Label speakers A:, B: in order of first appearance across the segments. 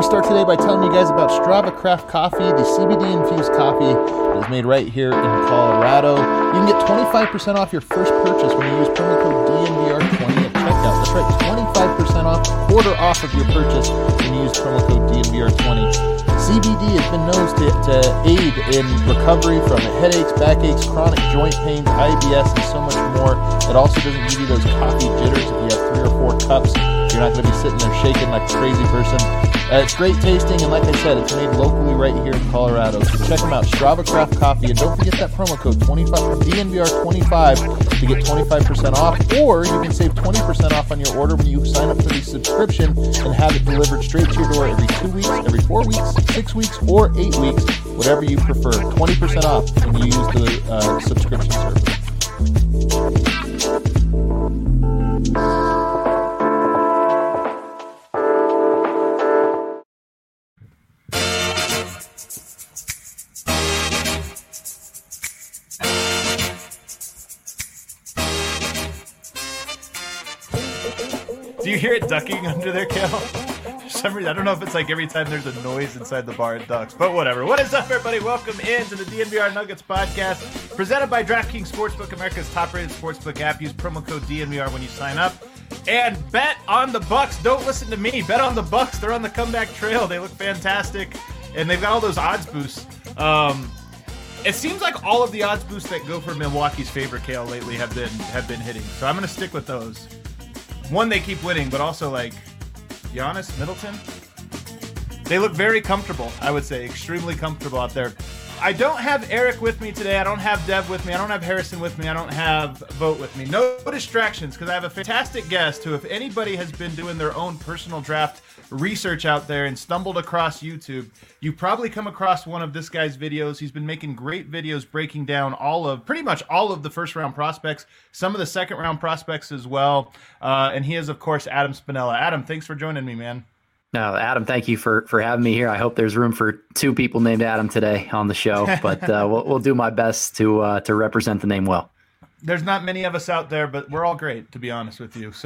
A: to start today by telling you guys about Strava Craft Coffee, the CBD-infused coffee that is made right here in Colorado. You can get 25% off your first purchase when you use promo code DNVR20 at checkout. That's right, 25% off, quarter off of your purchase when you use promo code DNVR20. CBD has been known to aid in recovery from headaches, backaches, chronic joint pains, IBS, and so much more. It also doesn't give you those coffee jitters if you have 3 or 4 cups. You're not going to be sitting there shaking like a crazy person. It's great tasting, and like I said, it's made locally right here in Colorado. So check them out, Strava Craft Coffee, and don't forget that promo code DNVR25 to get 25% off, or you can save 20% off on your order when you sign up for the subscription and have it delivered straight to your door every 2 weeks, every 4 weeks, 6 weeks, or 8 weeks, whatever you prefer. 20% off when you use the subscription service.
B: Do you hear it ducking under there, Kale? For some reason, I don't know if it's like every time there's a noise inside the bar it ducks, but whatever. What is up, everybody? Welcome into the DNVR Nuggets podcast, presented by DraftKings Sportsbook, America's top-rated sportsbook app. Use promo code DNVR when you sign up. And bet on the Bucks. Don't listen to me. Bet on the Bucks. They're on the comeback trail. They look fantastic, and they've got all those odds boosts. It seems like all of the odds boosts that go for Milwaukee's favorite, Kale, lately have been hitting. So I'm going to stick with those. One, they keep winning, but also, like, Giannis, Middleton, they look very comfortable, I would say, extremely comfortable out there. I don't have Eric with me today. I don't have Dev with me. I don't have Harrison with me. I don't have Vote with me. No distractions, because I have a fantastic guest who, if anybody has been doing their own personal draft research out there and stumbled across YouTube, you probably come across one of this guy's videos. He's been making great videos breaking down pretty much all of the first round prospects, some of the second round prospects as well. And he is, of course, Adam Spinella. Adam, thanks for joining me, man.
C: No, Adam, thank you for having me here. I hope there's room for 2 people named Adam today on the show, but we'll do my best to represent the name well.
B: There's not many of us out there, but we're all great, to be honest with you.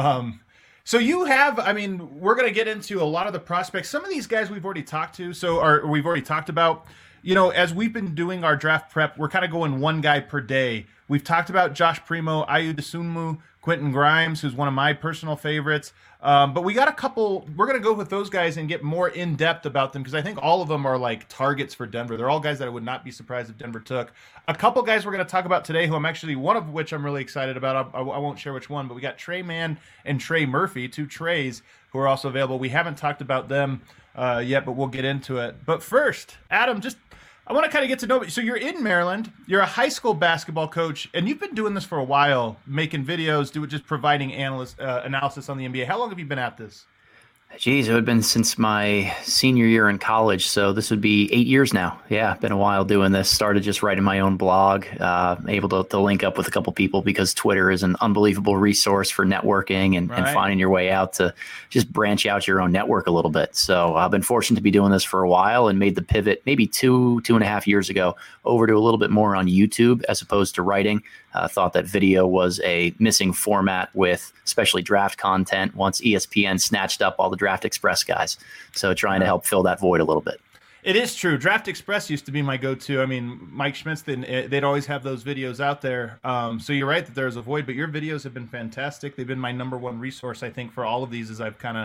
B: So you have, I mean, we're going to get into a lot of the prospects. Some of these guys we've already talked to, or we've already talked about. You know, as we've been doing our draft prep, we're kind of going one guy per day. We've talked about Josh Primo, Ayu Dosunmu, Quentin Grimes, who's one of my personal favorites. But we got a couple, we're going to go with those guys and get more in-depth about them, because I think all of them are like targets for Denver. They're all guys that I would not be surprised if Denver took. A couple guys we're going to talk about today, who I'm actually, one of which I'm really excited about. I won't share which one, but we got Trey Mann and Trey Murphy, 2 Treys, who are also available. We haven't talked about them yet, but we'll get into it. But first, Adam, I want to kind of get to know you. So you're in Maryland. You're a high school basketball coach, and you've been doing this for a while, making videos, just providing analysis on the NBA. How long have you been at this?
C: Geez, it would have been since my senior year in college, so this would be 8 years now. Yeah, been a while doing this. Started just writing my own blog, able to link up with a couple people because Twitter is an unbelievable resource for networking and finding your way out to just branch out your own network a little bit. So I've been fortunate to be doing this for a while and made the pivot maybe 2.5 years ago over to a little bit more on YouTube as opposed to writing. Thought that video was a missing format with especially draft content once ESPN snatched up all the Draft Express guys. So trying to help fill that void a little bit.
B: It is true. Draft Express used to be my go-to. I mean, Mike Schmitz, they'd always have those videos out there. So you're right that there's a void, but your videos have been fantastic. They've been my number one resource, I think, for all of these.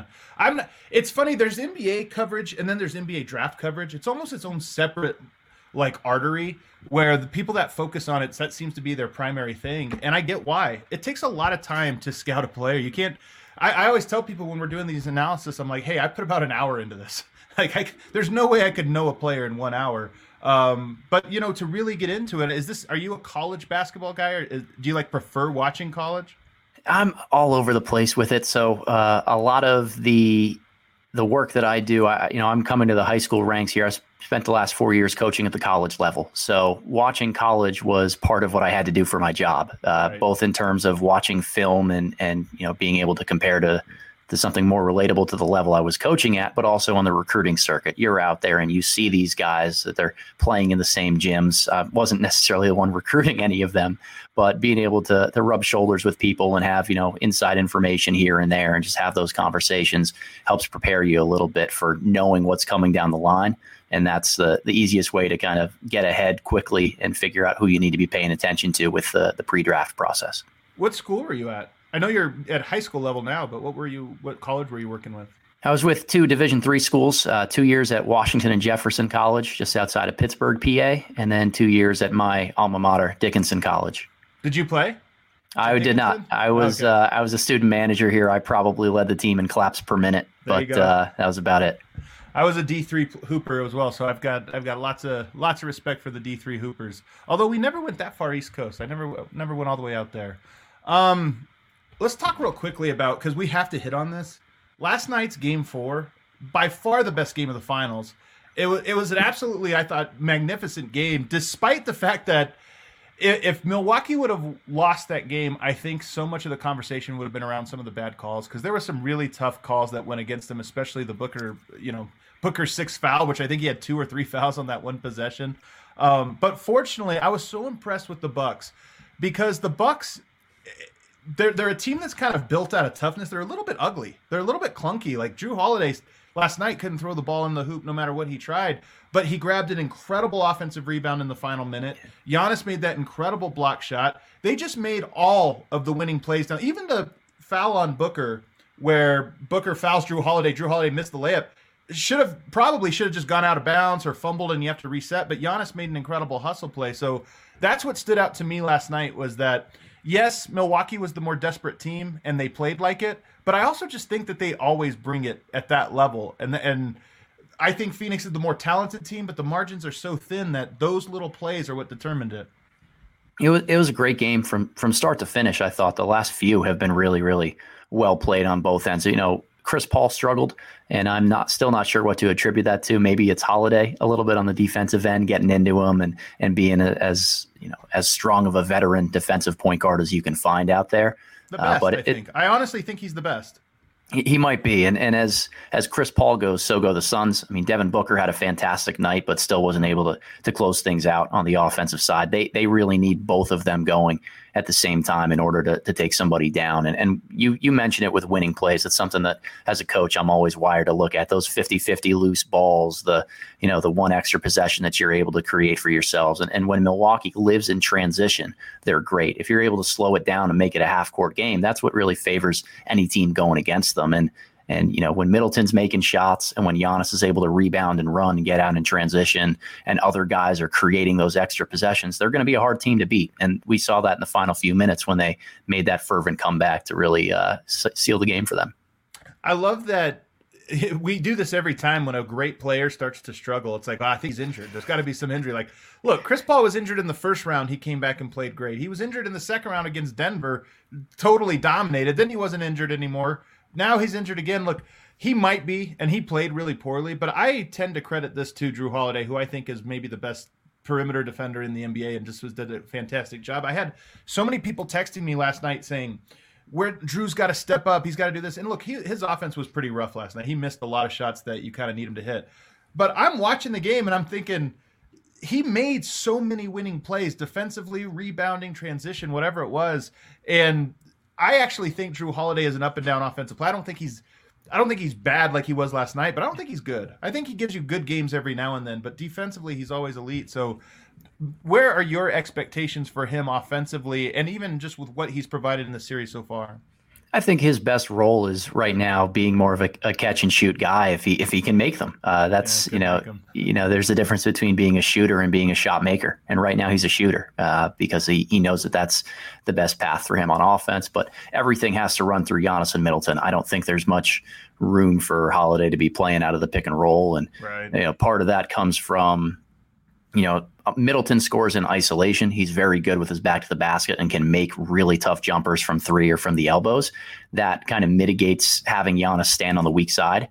B: It's funny. There's NBA coverage and then there's NBA draft coverage. It's almost its own separate artery, where the people that focus on it, that seems to be their primary thing. And I get why. It takes a lot of time to scout a player. You can't, I always tell people when we're doing these analysis, I'm like, hey, I put about an hour into this. There's no way I could know a player in 1 hour. But to really get into it, are you a college basketball guy, or do you prefer watching college?
C: I'm all over the place with it. So a lot of the work that I do, I'm coming to the high school ranks here. I spent the last 4 years coaching at the college level. So watching college was part of what I had to do for my job, both in terms of watching film and being able to compare to to something more relatable to the level I was coaching at, but also on the recruiting circuit. You're out there and you see these guys that they're playing in the same gyms. I wasn't necessarily the one recruiting any of them, but being able to rub shoulders with people and have, inside information here and there and just have those conversations helps prepare you a little bit for knowing what's coming down the line. And that's the easiest way to kind of get ahead quickly and figure out who you need to be paying attention to with the pre-draft process.
B: What school were you at? I know you're at high school level now, but what college were you working with?
C: I was with 2 Division III schools, 2 years at Washington and Jefferson College, just outside of Pittsburgh, PA, and then 2 years at my alma mater, Dickinson College.
B: Did you play?
C: I did not. I was a student manager here. I probably led the team in claps per minute, but that was about it.
B: I was a D3 hooper as well, so I've got lots of respect for the D3 hoopers. Although we never went that far East Coast, I never went all the way out there. Let's talk real quickly about, because we have to hit on this. Last night's Game 4, by far the best game of the finals. It was an absolutely, I thought, magnificent game, despite the fact that if Milwaukee would have lost that game, I think so much of the conversation would have been around some of the bad calls, because there were some really tough calls that went against them, especially the Booker 6 foul, which I think he had 2 or 3 fouls on that one possession. But fortunately, I was so impressed with the Bucks, because the Bucks, they're a team that's kind of built out of toughness. They're a little bit ugly. They're a little bit clunky. Like Jrue Holiday last night couldn't throw the ball in the hoop no matter what he tried, but he grabbed an incredible offensive rebound in the final minute. Giannis made that incredible block shot. They just made all of the winning plays down. Even the foul on Booker, where Booker fouls Jrue Holiday missed the layup, should have just gone out of bounds or fumbled and you have to reset, but Giannis made an incredible hustle play. So that's what stood out to me last night, was that yes, Milwaukee was the more desperate team and they played like it, but I also just think that they always bring it at that level. And I think Phoenix is the more talented team, but the margins are so thin that those little plays are what determined it.
C: It was a great game from start to finish. I thought the last few have been really, really well played on both ends. Chris Paul struggled, and I'm still not sure what to attribute that to. Maybe it's Holiday a little bit on the defensive end, getting into him and being as strong of a veteran defensive point guard as you can find out there.
B: The best, I think. I honestly think he's the best.
C: He might be, and as Chris Paul goes, so go the Suns. I mean, Devin Booker had a fantastic night, but still wasn't able to close things out on the offensive side. They really need both of them going at the same time in order to take somebody down. And you mentioned it with winning plays. It's something that, as a coach, I'm always wired to look at. Those 50-50 loose balls, the one extra possession that you're able to create for yourselves. And when Milwaukee lives in transition, they're great. If you're able to slow it down and make it a half-court game, that's what really favors any team going against them. And when Middleton's making shots and when Giannis is able to rebound and run and get out in transition and other guys are creating those extra possessions, they're going to be a hard team to beat. And we saw that in the final few minutes when they made that fervent comeback to really seal the game for them.
B: I love that we do this every time when a great player starts to struggle. It's like, I think he's injured. There's got to be some injury. Like, look, Chris Paul was injured in the first round. He came back and played great. He was injured in the second round against Denver, totally dominated. Then he wasn't injured anymore. Now he's injured again. Look, he might be, and he played really poorly, but I tend to credit this to Jrue Holiday, who I think is maybe the best perimeter defender in the NBA and just did a fantastic job. I had so many people texting me last night saying, where Drew's got to step up, he's got to do this. And look, his offense was pretty rough last night. He missed a lot of shots that you kind of need him to hit. But I'm watching the game and I'm thinking, he made so many winning plays, defensively, rebounding, transition, whatever it was. And I actually think Jrue Holiday is an up and down offensive player. I don't think he's bad like he was last night, but I don't think he's good. I think he gives you good games every now and then, but defensively he's always elite. So where are your expectations for him offensively and even just with what he's provided in the series so far?
C: I think his best role is right now being more of a catch and shoot guy if he can make them. There's a difference between being a shooter and being a shot maker. And right now he's a shooter because he knows that that's the best path for him on offense. But everything has to run through Giannis and Middleton. I don't think there's much room for Holiday to be playing out of the pick and roll. And part of that comes from Middleton scores in isolation. He's very good with his back to the basket and can make really tough jumpers from three or from the elbows. That kind of mitigates having Giannis stand on the weak side.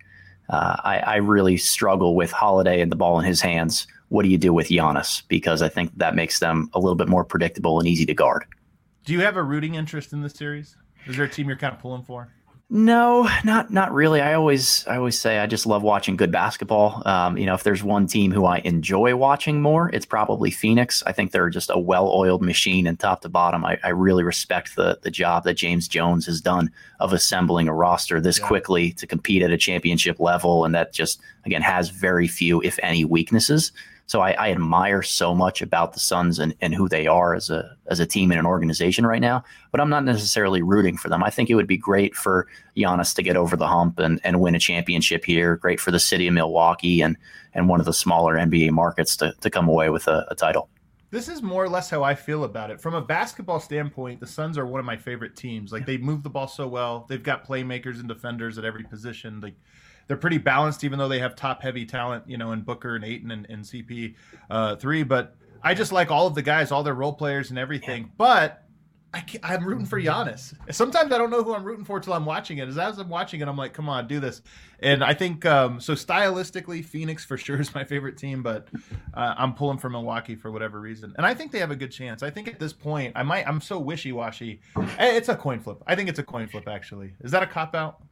C: I really struggle with Holiday and the ball in his hands. What do you do with Giannis? Because I think that makes them a little bit more predictable and easy to guard.
B: Do you have a rooting interest in this series? Is there a team you're kind of pulling for?
C: No, not really. I always say I just love watching good basketball. If there's one team who I enjoy watching more, it's probably Phoenix. I think they're just a well-oiled machine, and top to bottom, I really respect the job that James Jones has done of assembling a roster this quickly to compete at a championship level, and that just again has very few, if any, weaknesses. So I admire so much about the Suns and who they are as a team and an organization right now, but I'm not necessarily rooting for them. I think it would be great for Giannis to get over the hump and win a championship here. Great for the city of Milwaukee and one of the smaller NBA markets to come away with a title.
B: This is more or less how I feel about it. From a basketball standpoint, the Suns are one of my favorite teams. Like, they move the ball so well. They've got playmakers and defenders at every position. They're pretty balanced, even though they have top-heavy talent, in Booker and Ayton and CP3. But I just like all of the guys, all their role players and everything. Yeah. But I'm rooting for Giannis. Sometimes I don't know who I'm rooting for until I'm watching it. As I'm watching it, I'm like, come on, do this. And I think, so stylistically, Phoenix for sure is my favorite team, but I'm pulling for Milwaukee for whatever reason. And I think they have a good chance. I think at this point, I'm so wishy-washy. It's a coin flip. I think it's a coin flip, actually. Is that a cop-out?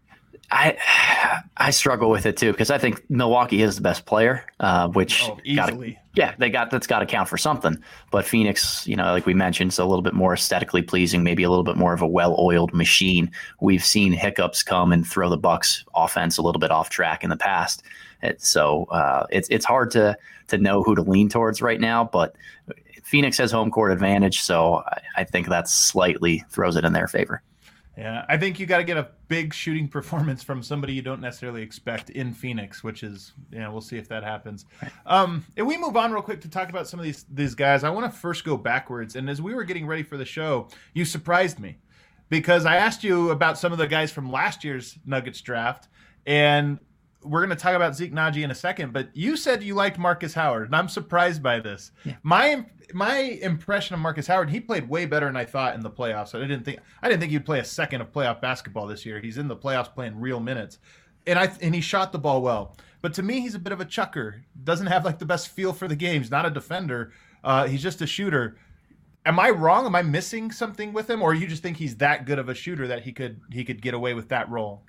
C: I struggle with it too, because I think Milwaukee is the best player, which
B: easily.
C: That's got to count for something. But Phoenix, like we mentioned, is a little bit more aesthetically pleasing, maybe a little bit more of a well-oiled machine. We've seen hiccups come and throw the Bucks offense a little bit off track in the past. It's hard to know who to lean towards right now, but Phoenix has home court advantage, so I think that slightly throws it in their favor.
B: Yeah, I think you got to get a big shooting performance from somebody you don't necessarily expect in Phoenix, which is, we'll see if that happens. And we move on real quick to talk about some of these guys. I want to first go backwards. And as we were getting ready for the show, you surprised me because I asked you about some of the guys from last year's Nuggets draft, and we're going to talk about Zeke Naji in a second, but you said you liked Marcus Howard, and I'm surprised by this. Yeah. My impression of Marcus Howard, he played way better than I thought in the playoffs. I didn't think he'd play a second of playoff basketball this year. He's in the playoffs playing real minutes, and he shot the ball well. But to me, he's a bit of a chucker. Doesn't have like the best feel for the game. He's not a defender. He's just a shooter. Am I wrong? Am I missing something with him, or you just think he's that good of a shooter that he could get away with that role?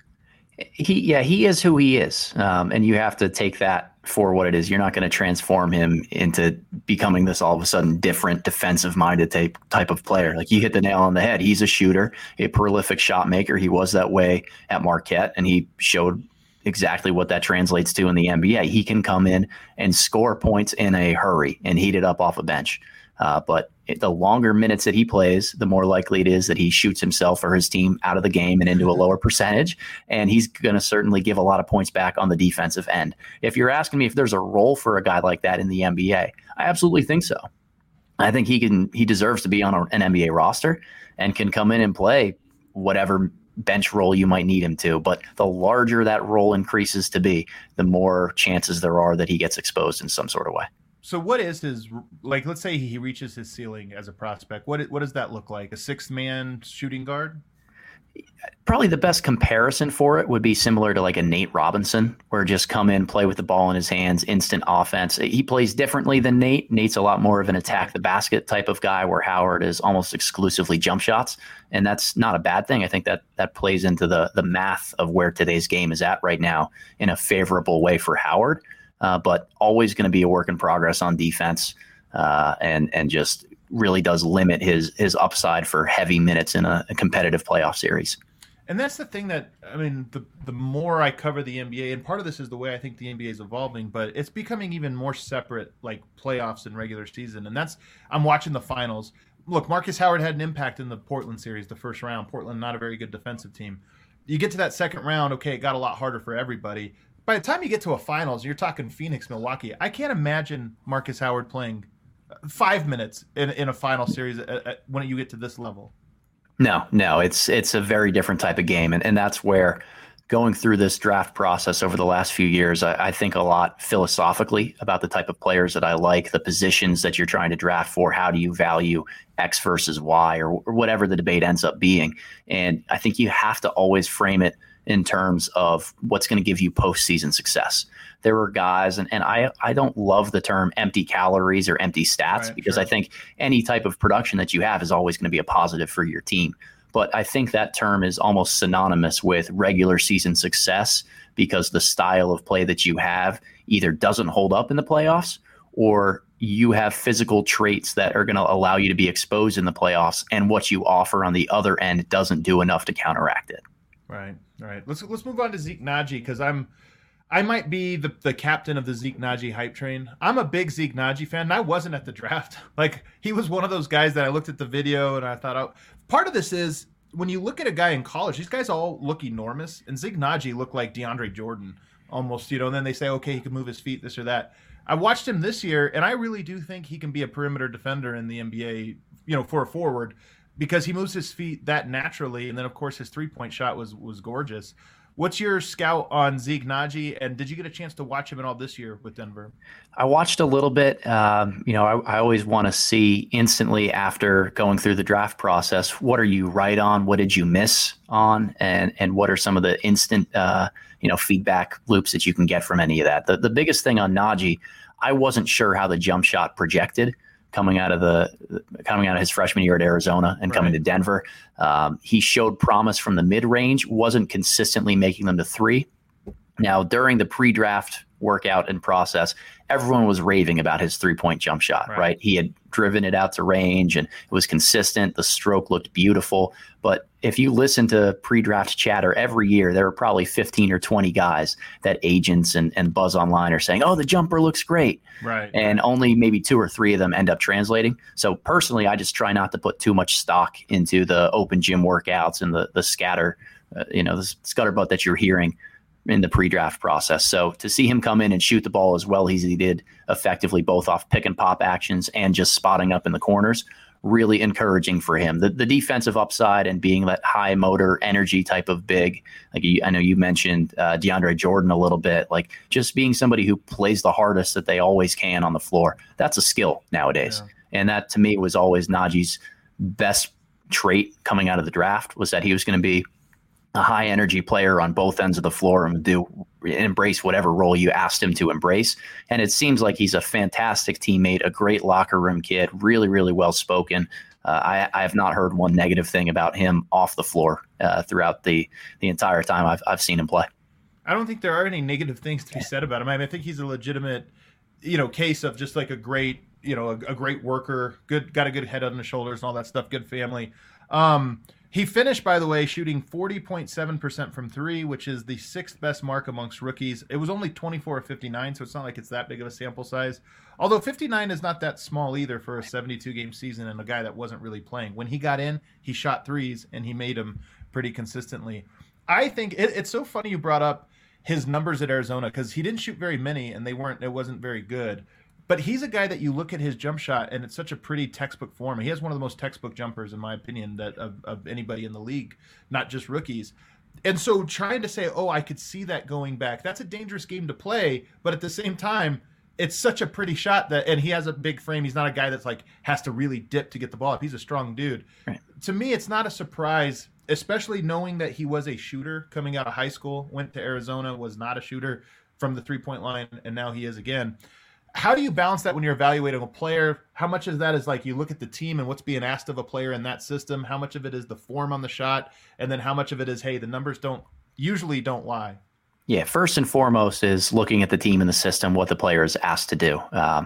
C: He is who he is, and you have to take that for what it is. You're not going to transform him into becoming this all of a sudden different defensive-minded type of player. Like, you hit the nail on the head. He's a shooter, a prolific shot maker. He was that way at Marquette, and he showed exactly what that translates to in the NBA. He can come in and score points in a hurry and heat it up off a bench. But the longer minutes that he plays, the more likely it is that he shoots himself or his team out of the game and into a lower percentage. And he's going to certainly give a lot of points back on the defensive end. If you're asking me if there's a role for a guy like that in the NBA, I absolutely think so. I think he deserves to be on an NBA roster and can come in and play whatever bench role you might need him to. But the larger that role increases to be, the more chances there are that he gets exposed in some sort of way.
B: So what is his, like, let's say he reaches his ceiling as a prospect. What does that look like? A sixth-man shooting guard?
C: Probably the best comparison for it would be similar to like a Nate Robinson, where just come in, play with the ball in his hands, instant offense. He plays differently than Nate. Nate's a lot more of an attack the basket type of guy, where Howard is almost exclusively jump shots. And that's not a bad thing. I think that plays into the math of where today's game is at right now in a favorable way for Howard. But always going to be a work in progress on defense, and just really does limit his upside for heavy minutes in a competitive playoff series.
B: And that's the thing that, I mean, the more I cover the NBA, and part of this is the way I think the NBA is evolving, but it's becoming even more separate, like playoffs and regular season. And I'm watching the finals. Look, Marcus Howard had an impact in the Portland series, the first round. Portland, not a very good defensive team. You get to that second round, okay, it got a lot harder for everybody. By the time you get to a finals, you're talking Phoenix, Milwaukee. I can't imagine Marcus Howard playing 5 minutes in a final series when you get to this level.
C: No, it's a very different type of game. And that's where going through this draft process over the last few years, I think a lot philosophically about the type of players that I like, the positions that you're trying to draft for. How do you value X versus Y, or whatever the debate ends up being? And I think you have to always frame it in terms of what's going to give you postseason success. There were guys, and I don't love the term empty calories or empty stats, right, because sure. I think any type of production that you have is always going to be a positive for your team. But I think that term is almost synonymous with regular season success because the style of play that you have either doesn't hold up in the playoffs or you have physical traits that are going to allow you to be exposed in the playoffs, and what you offer on the other end doesn't do enough to counteract it.
B: Right. Let's move on to Zeke Nnaji, because I might be the captain of the Zeke Nnaji hype train. I'm a big Zeke Nnaji fan, and I wasn't at the draft. Like, he was one of those guys that I looked at the video and I thought, oh, part of this is when you look at a guy in college, these guys all look enormous, and Zeke Nnaji looked like DeAndre Jordan almost, and then they say, okay, he can move his feet, this or that. I watched him this year, and I really do think he can be a perimeter defender in the NBA, for a forward, because he moves his feet that naturally. And then, of course, his three-point shot was gorgeous. What's your scout on Zeke Nnaji, and did you get a chance to watch him at all this year with Denver?
C: I watched a little bit. I always want to see instantly after going through the draft process, what are you right on? What did you miss on? And what are some of the instant feedback loops that you can get from any of that? The biggest thing on Nnaji, I wasn't sure how the jump shot projected coming out of his freshman year at Arizona and coming to Denver. He showed promise from the mid-range, wasn't consistently making them to three. Now, during the pre-draft workout and process, everyone was raving about his three-point jump shot, right? He had driven it out to range and it was consistent. The stroke looked beautiful. But if you listen to pre-draft chatter every year, there are probably 15 or 20 guys that agents and Buzz Online are saying, oh, the jumper looks great.
B: Right.
C: And only maybe 2 or 3 of them end up translating. So personally, I just try not to put too much stock into the open gym workouts and the scatter, the scutterbutt that you're hearing in the pre-draft process. So to see him come in and shoot the ball as well as he did effectively, both off pick and pop actions and just spotting up in the corners, really encouraging for him. The defensive upside and being that high motor energy type of big, like I know you mentioned DeAndre Jordan a little bit, like just being somebody who plays the hardest that they always can on the floor. That's a skill nowadays. Yeah. And that to me was always Nnaji's best trait coming out of the draft, was that he was going to be a high energy player on both ends of the floor and embrace whatever role you asked him to embrace. And it seems like he's a fantastic teammate, a great locker room kid, really, really well spoken. I have not heard one negative thing about him off the floor throughout the entire time I've seen him play.
B: I don't think there are any negative things to be said about him. I think he's a legitimate, case of just like a great, a great worker, got a good head on his shoulders and all that stuff, good family. He finished, by the way, shooting 40.7% from three, which is the 6th best mark amongst rookies. It was only 24 of 59, so it's not like it's that big of a sample size. Although 59 is not that small either for a 72-game season and a guy that wasn't really playing. When he got in, he shot threes, and he made them pretty consistently. I think it's so funny you brought up his numbers at Arizona, because he didn't shoot very many, and it wasn't very good. But he's a guy that you look at his jump shot, and it's such a pretty textbook form. He has one of the most textbook jumpers, in my opinion, that of anybody in the league, not just rookies. And so trying to say, oh, I could see that going back, that's a dangerous game to play. But at the same time, it's such a pretty shot and he has a big frame. He's not a guy that's like has to really dip to get the ball up. He's a strong dude. Right. To me, it's not a surprise, especially knowing that he was a shooter coming out of high school, went to Arizona, was not a shooter from the three-point line, and now he is again. How do you balance that when you're evaluating a player? How much of that is like you look at the team and what's being asked of a player in that system? How much of it is the form on the shot? And then how much of it is, hey, the numbers usually don't lie?
C: Yeah, first and foremost is looking at the team and the system, what the player is asked to do.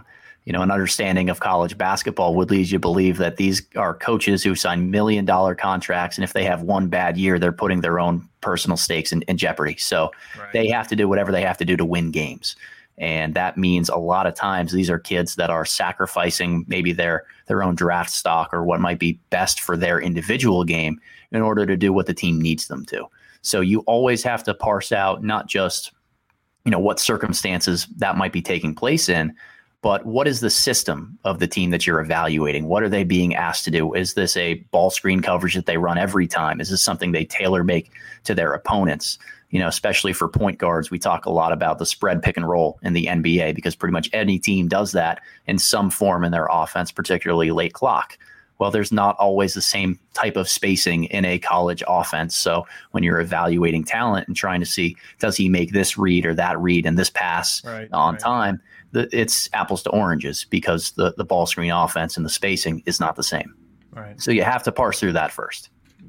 C: An understanding of college basketball would lead you to believe that these are coaches who sign $1 million contracts, and if they have one bad year, they're putting their own personal stakes in jeopardy. So They have to do whatever they have to do to win games. And that means a lot of times these are kids that are sacrificing maybe their own draft stock or what might be best for their individual game in order to do what the team needs them to. So you always have to parse out not just, what circumstances that might be taking place in, but what is the system of the team that you're evaluating? What are they being asked to do? Is this a ball screen coverage that they run every time? Is this something they tailor make to their opponents? Especially for point guards, we talk a lot about the spread pick and roll in the NBA because pretty much any team does that in some form in their offense, particularly late clock. Well, there's not always the same type of spacing in a college offense. So when you're evaluating talent and trying to see, does he make this read or that read and this pass on time, it's apples to oranges because the ball screen offense and the spacing is not the same.
B: Right.
C: So you have to parse through that first.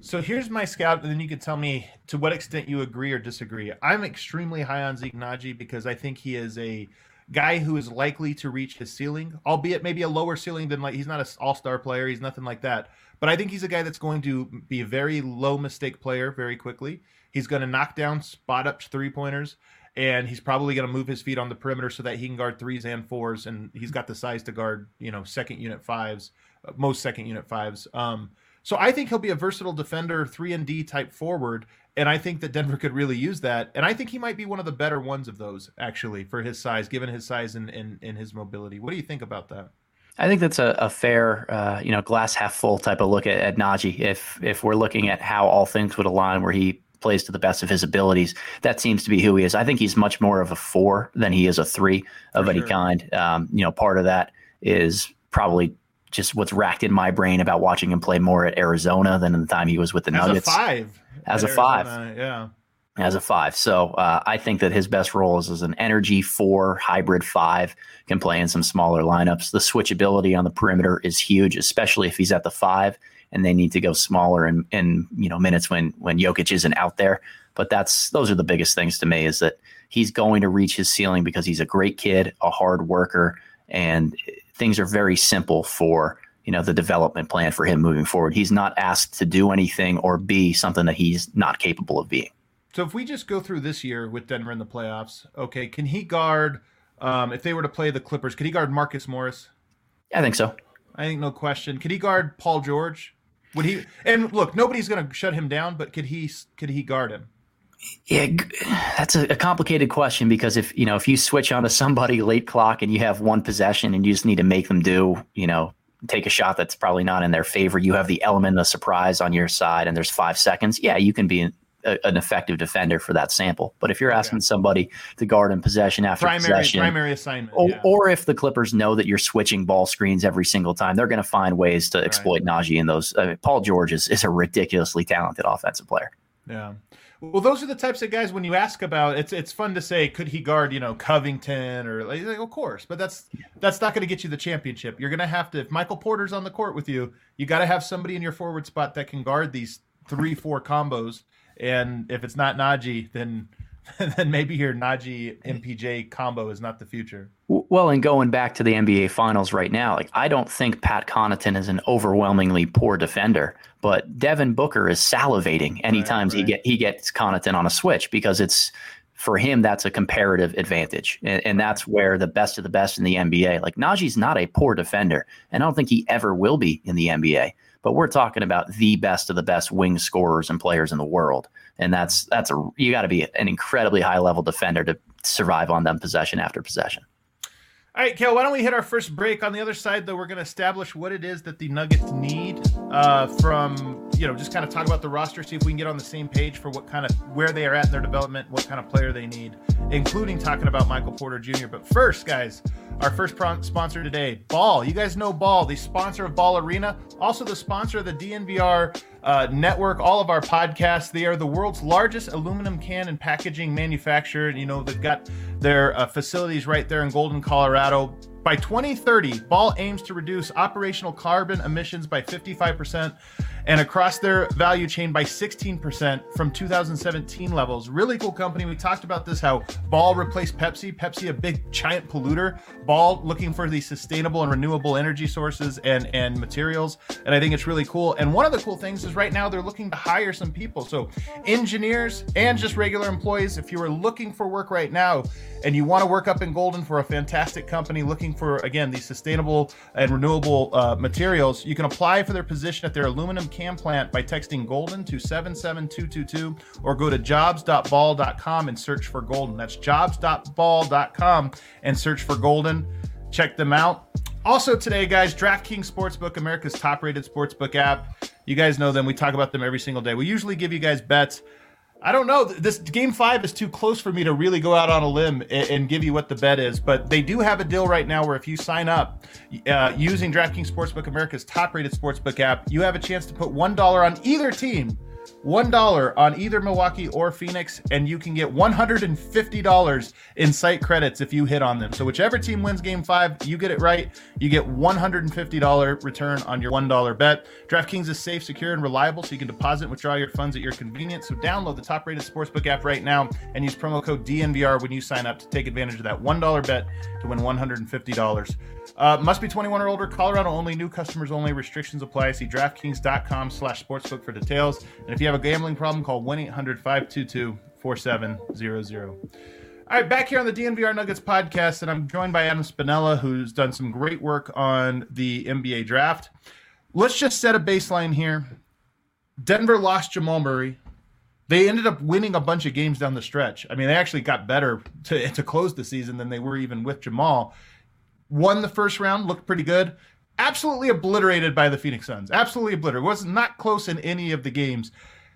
B: So here's my scout, and then you can tell me to what extent you agree or disagree. I'm extremely high on Zeke Nnaji because I think he is a guy who is likely to reach his ceiling, albeit maybe a lower ceiling than, like, he's not an all-star player. He's nothing like that. But I think he's a guy that's going to be a very low mistake player very quickly. He's going to knock down spot up three-pointers, and he's probably going to move his feet on the perimeter so that he can guard threes and fours, and he's got the size to guard, second unit fives, most second unit fives. So I think he'll be a versatile defender, 3-and-D type forward, and I think that Denver could really use that. And I think he might be one of the better ones of those, actually, for his size, given his size and his mobility. What do you think about that?
C: I think that's a fair, glass half full type of look at Nnaji. If we're looking at how all things would align, where he plays to the best of his abilities, that seems to be who he is. I think he's much more of a 4 than he is a 3 of any kind. Part of that is probably just what's racked in my brain about watching him play more at Arizona than in the time he was with the Nuggets. As a 5.
B: Yeah.
C: As a 5. So I think that his best role is as an energy 4, hybrid 5, can play in some smaller lineups. The switchability on the perimeter is huge, especially if he's at the 5 and they need to go smaller in minutes when Jokic isn't out there. But those are the biggest things to me, is that he's going to reach his ceiling because he's a great kid, a hard worker, and things are very simple for the development plan for him moving forward. He's not asked to do anything or be something that he's not capable of being.
B: So if we just go through this year with Denver in the playoffs, okay, can he guard, if they were to play the Clippers, could he guard Marcus Morris?
C: I think so.
B: I think no question. Could he guard Paul George? Would he? And look, nobody's going to shut him down, but could he guard him?
C: Yeah, that's a complicated question, because if you switch onto somebody late clock and you have one possession and you just need to make them take a shot that's probably not in their favor, you have the element of surprise on your side and there's 5 seconds. Yeah, you can be an effective defender for that sample. But if you're asking somebody to guard in possession after possession,
B: primary assignment,
C: or if the Clippers know that you're switching ball screens every single time, they're going to find ways to exploit Nnaji in those. Paul George is a ridiculously talented offensive player.
B: Yeah. Well, those are the types of guys when you ask about it's fun to say, could he guard, Covington or like, of course, but that's not going to get you the championship. You're going to have to, if Michael Porter's on the court with you, you got to have somebody in your forward spot that can guard these 3-4 combos. And if it's not Nnaji, then maybe your Nnaji MPJ combo is not the future.
C: Well, and going back to the NBA Finals right now, I don't think Pat Connaughton is an overwhelmingly poor defender, but Devin Booker is salivating anytime he gets Connaughton on a switch, because for him, that's a comparative advantage. And that's where the best of the best in the NBA, Nnaji's not a poor defender, and I don't think he ever will be in the NBA. But we're talking about the best of the best wing scorers and players in the world. And you got to be an incredibly high level defender to survive on them possession after possession.
B: All right, Kale, why don't we hit our first break? On the other side, though, we're going to establish what it is that the Nuggets need from, just kind of talk about the roster, see if we can get on the same page for where they are at in their development, what kind of player they need, including talking about Michael Porter Jr. But first, guys, our first sponsor today, Ball. You guys know Ball, the sponsor of Ball Arena, also the sponsor of the DNVR network, all of our podcasts. They are the world's largest aluminum can and packaging manufacturer. They've got their facilities right there in Golden, Colorado. By 2030, Ball aims to reduce operational carbon emissions by 55% and across their value chain by 16% from 2017 levels. Really cool company. We talked about this, how Ball replaced Pepsi. Pepsi, a big giant polluter. Ball looking for these sustainable and renewable energy sources and materials. And I think it's really cool. And one of the cool things is right now they're looking to hire some people. So engineers and just regular employees, if you are looking for work right now and you want to work up in Golden for a fantastic company looking for, again, these sustainable and renewable materials, you can apply for their position at their aluminum can plant by texting Golden to 77222 or go to jobs.ball.com and search for Golden. That's jobs.ball.com and search for Golden. Check them out. Also today, guys, DraftKings Sportsbook, America's top-rated sportsbook app. You guys know them. We talk about them every single day. We usually give you guys bets. I don't know. This Game 5 is too close for me to really go out on a limb and give you what the bet is. But they do have a deal right now where if you sign up using DraftKings Sportsbook, America's top-rated sportsbook app, you have a chance to put $1 on either team $1 on either Milwaukee or Phoenix, and you can get $150 in site credits if you hit on them. So whichever team wins game 5, you get it right, you get $150 return on your $1 bet. DraftKings is safe, secure, and reliable, so you can deposit and withdraw your funds at your convenience. So download the top-rated sportsbook app right now and use promo code DNVR when you sign up to take advantage of that $1 bet to win $150. Must be 21 or older. Colorado only. New customers only. Restrictions apply. See DraftKings.com/sportsbook for details. And if you have a gambling problem, call 1-800-522-4700. All right, back here on the DNVR Nuggets podcast, and I'm joined by Adam Spinella, who's done some great work on the NBA draft. Let's just set a baseline here. Denver lost Jamal Murray. They ended up winning a bunch of games down the stretch. I mean, they actually got better to close the season than they were even with Jamal. Won the first round, looked pretty good. Absolutely obliterated by the Phoenix Suns. Absolutely obliterated. Was not close in any of the games.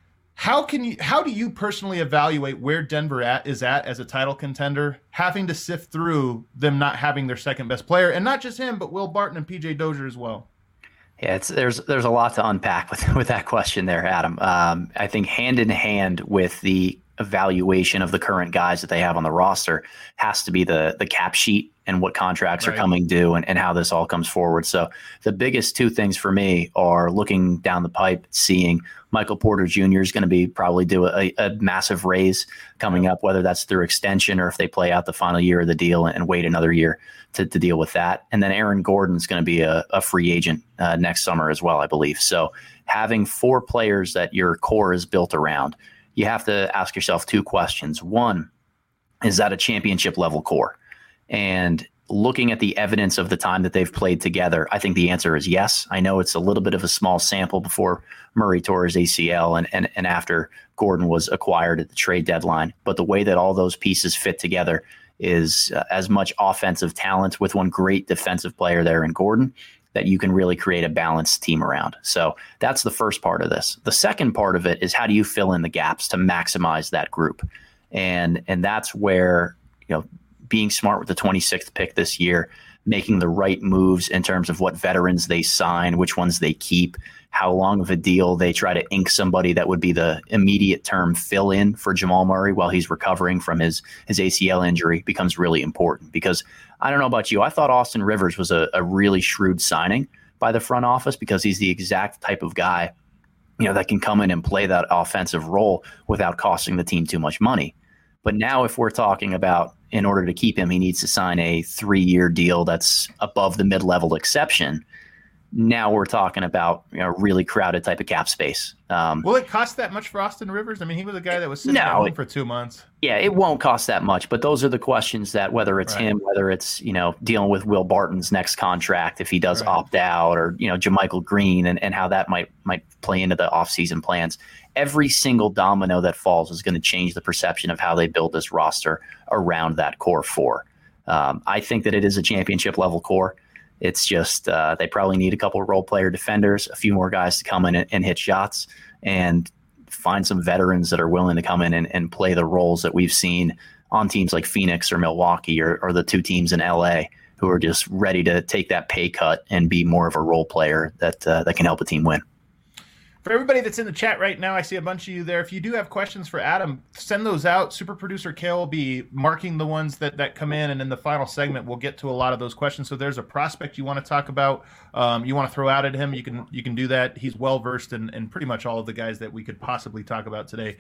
B: How do you personally evaluate where Denver is at as a title contender, having to sift through them not having their second best player, and not just him, but Will Barton and PJ Dozier as well?
C: Yeah, there's a lot to unpack with that question there, Adam. I think hand in hand with the evaluation of the current guys that they have on the roster has to be the cap sheet and what contracts are coming due and how this all comes forward. So the biggest two things for me are looking down the pipe, seeing Michael Porter Jr. is going to be probably do a massive raise coming up, whether that's through extension or if they play out the final year of the deal and wait another year to deal with that. And then Aaron Gordon's going to be a free agent next summer as well, I believe. So having 4 players that your core is built around, you have to ask yourself 2 questions. One, is that a championship level core? And looking at the evidence of the time that they've played together, I think the answer is yes. I know it's a little bit of a small sample before Murray tore his ACL and after Gordon was acquired at the trade deadline. But the way that all those pieces fit together is as much offensive talent with one great defensive player there in Gordon that you can really create a balanced team around. So that's the first part of this. The second part of it is how do you fill in the gaps to maximize that group? And that's where, being smart with the 26th pick this year, making the right moves in terms of what veterans they sign, which ones they keep, how long of a deal they try to ink somebody that would be the immediate term fill in for Jamal Murray while he's recovering from his ACL injury becomes really important. Because I don't know about you, I thought Austin Rivers was a really shrewd signing by the front office because he's the exact type of guy, that can come in and play that offensive role without costing the team too much money. But now if we're talking about in order to keep him, he needs to sign a 3-year deal that's above the mid-level exception. Now we're talking about really crowded type of cap space.
B: Will it cost that much for Austin Rivers? I mean, he was a guy that was sitting at home for 2 months.
C: Yeah, it won't cost that much. But those are the questions that whether it's him, whether it's dealing with Will Barton's next contract if he does opt out, or JaMychal Green and how that might play into the offseason plans. Every single domino that falls is going to change the perception of how they build this roster around that core 4. I think that it is a championship level core. It's just they probably need a couple of role player defenders, a few more guys to come in and hit shots, and find some veterans that are willing to come in and play the roles that we've seen on teams like Phoenix or Milwaukee or the 2 teams in LA who are just ready to take that pay cut and be more of a role player that can help a team win.
B: For everybody that's in the chat right now, I see a bunch of you there. If you do have questions for Adam, send those out. Super producer Kale will be marking the ones that come in, and in the final segment, we'll get to a lot of those questions. So there's a prospect you want to talk about, you want to throw out at him, you can do that. He's well-versed in pretty much all of the guys that we could possibly talk about today.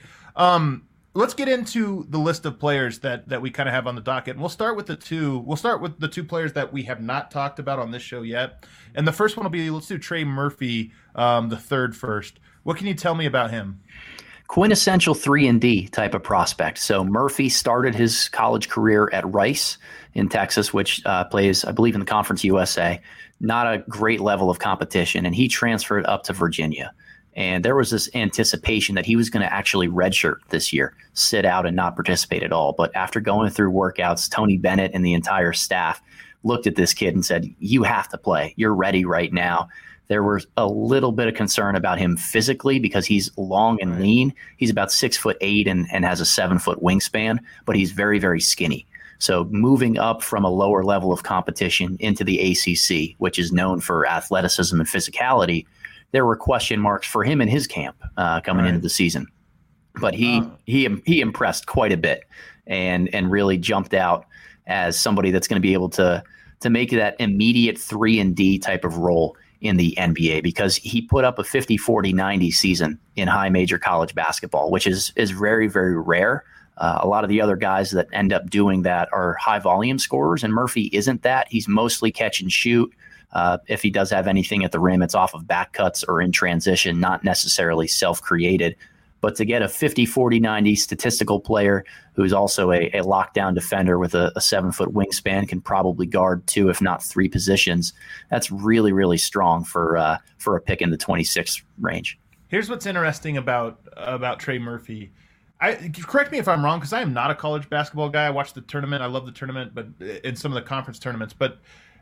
B: Let's get into the list of players that we kind of have on the docket. And we'll start with the two players that we have not talked about on this show yet. And the first one will be, let's do Trey Murphy, the third first. What can you tell me about him?
C: Quintessential 3-and-D type of prospect. So Murphy started his college career at Rice in Texas, which plays, I believe, in the Conference USA. Not a great level of competition. And he transferred up to Virginia. And there was this anticipation that he was going to actually redshirt this year, sit out and not participate at all. But after going through workouts, Tony Bennett and the entire staff looked at this kid and said, you have to play. You're ready right now. There was a little bit of concern about him physically because he's long and lean. He's about 6'8" and has a 7-foot wingspan, but he's very, very skinny. So moving up from a lower level of competition into the ACC, which is known for athleticism and physicality, there were question marks for him in his camp coming into the season. But he impressed quite a bit and really jumped out as somebody that's going to be able to make that immediate 3-and-D type of role in the NBA, because he put up a 50-40-90 season in high major college basketball, which is very, very rare. A lot of the other guys that end up doing that are high volume scorers, and Murphy isn't that. He's mostly catch and shoot. If he does have anything at the rim, it's off of back cuts or in transition, not necessarily self-created. But to get a 50-40-90 statistical player who's also a lockdown defender with a 7-foot wingspan, can probably guard 2, if not 3 positions, that's really, really strong for a pick in the 26 range.
B: Here's what's interesting about Trey Murphy. Correct me if I'm wrong, because I am not a college basketball guy. I watch the tournament. I love the tournament, but in some of the conference tournaments. But,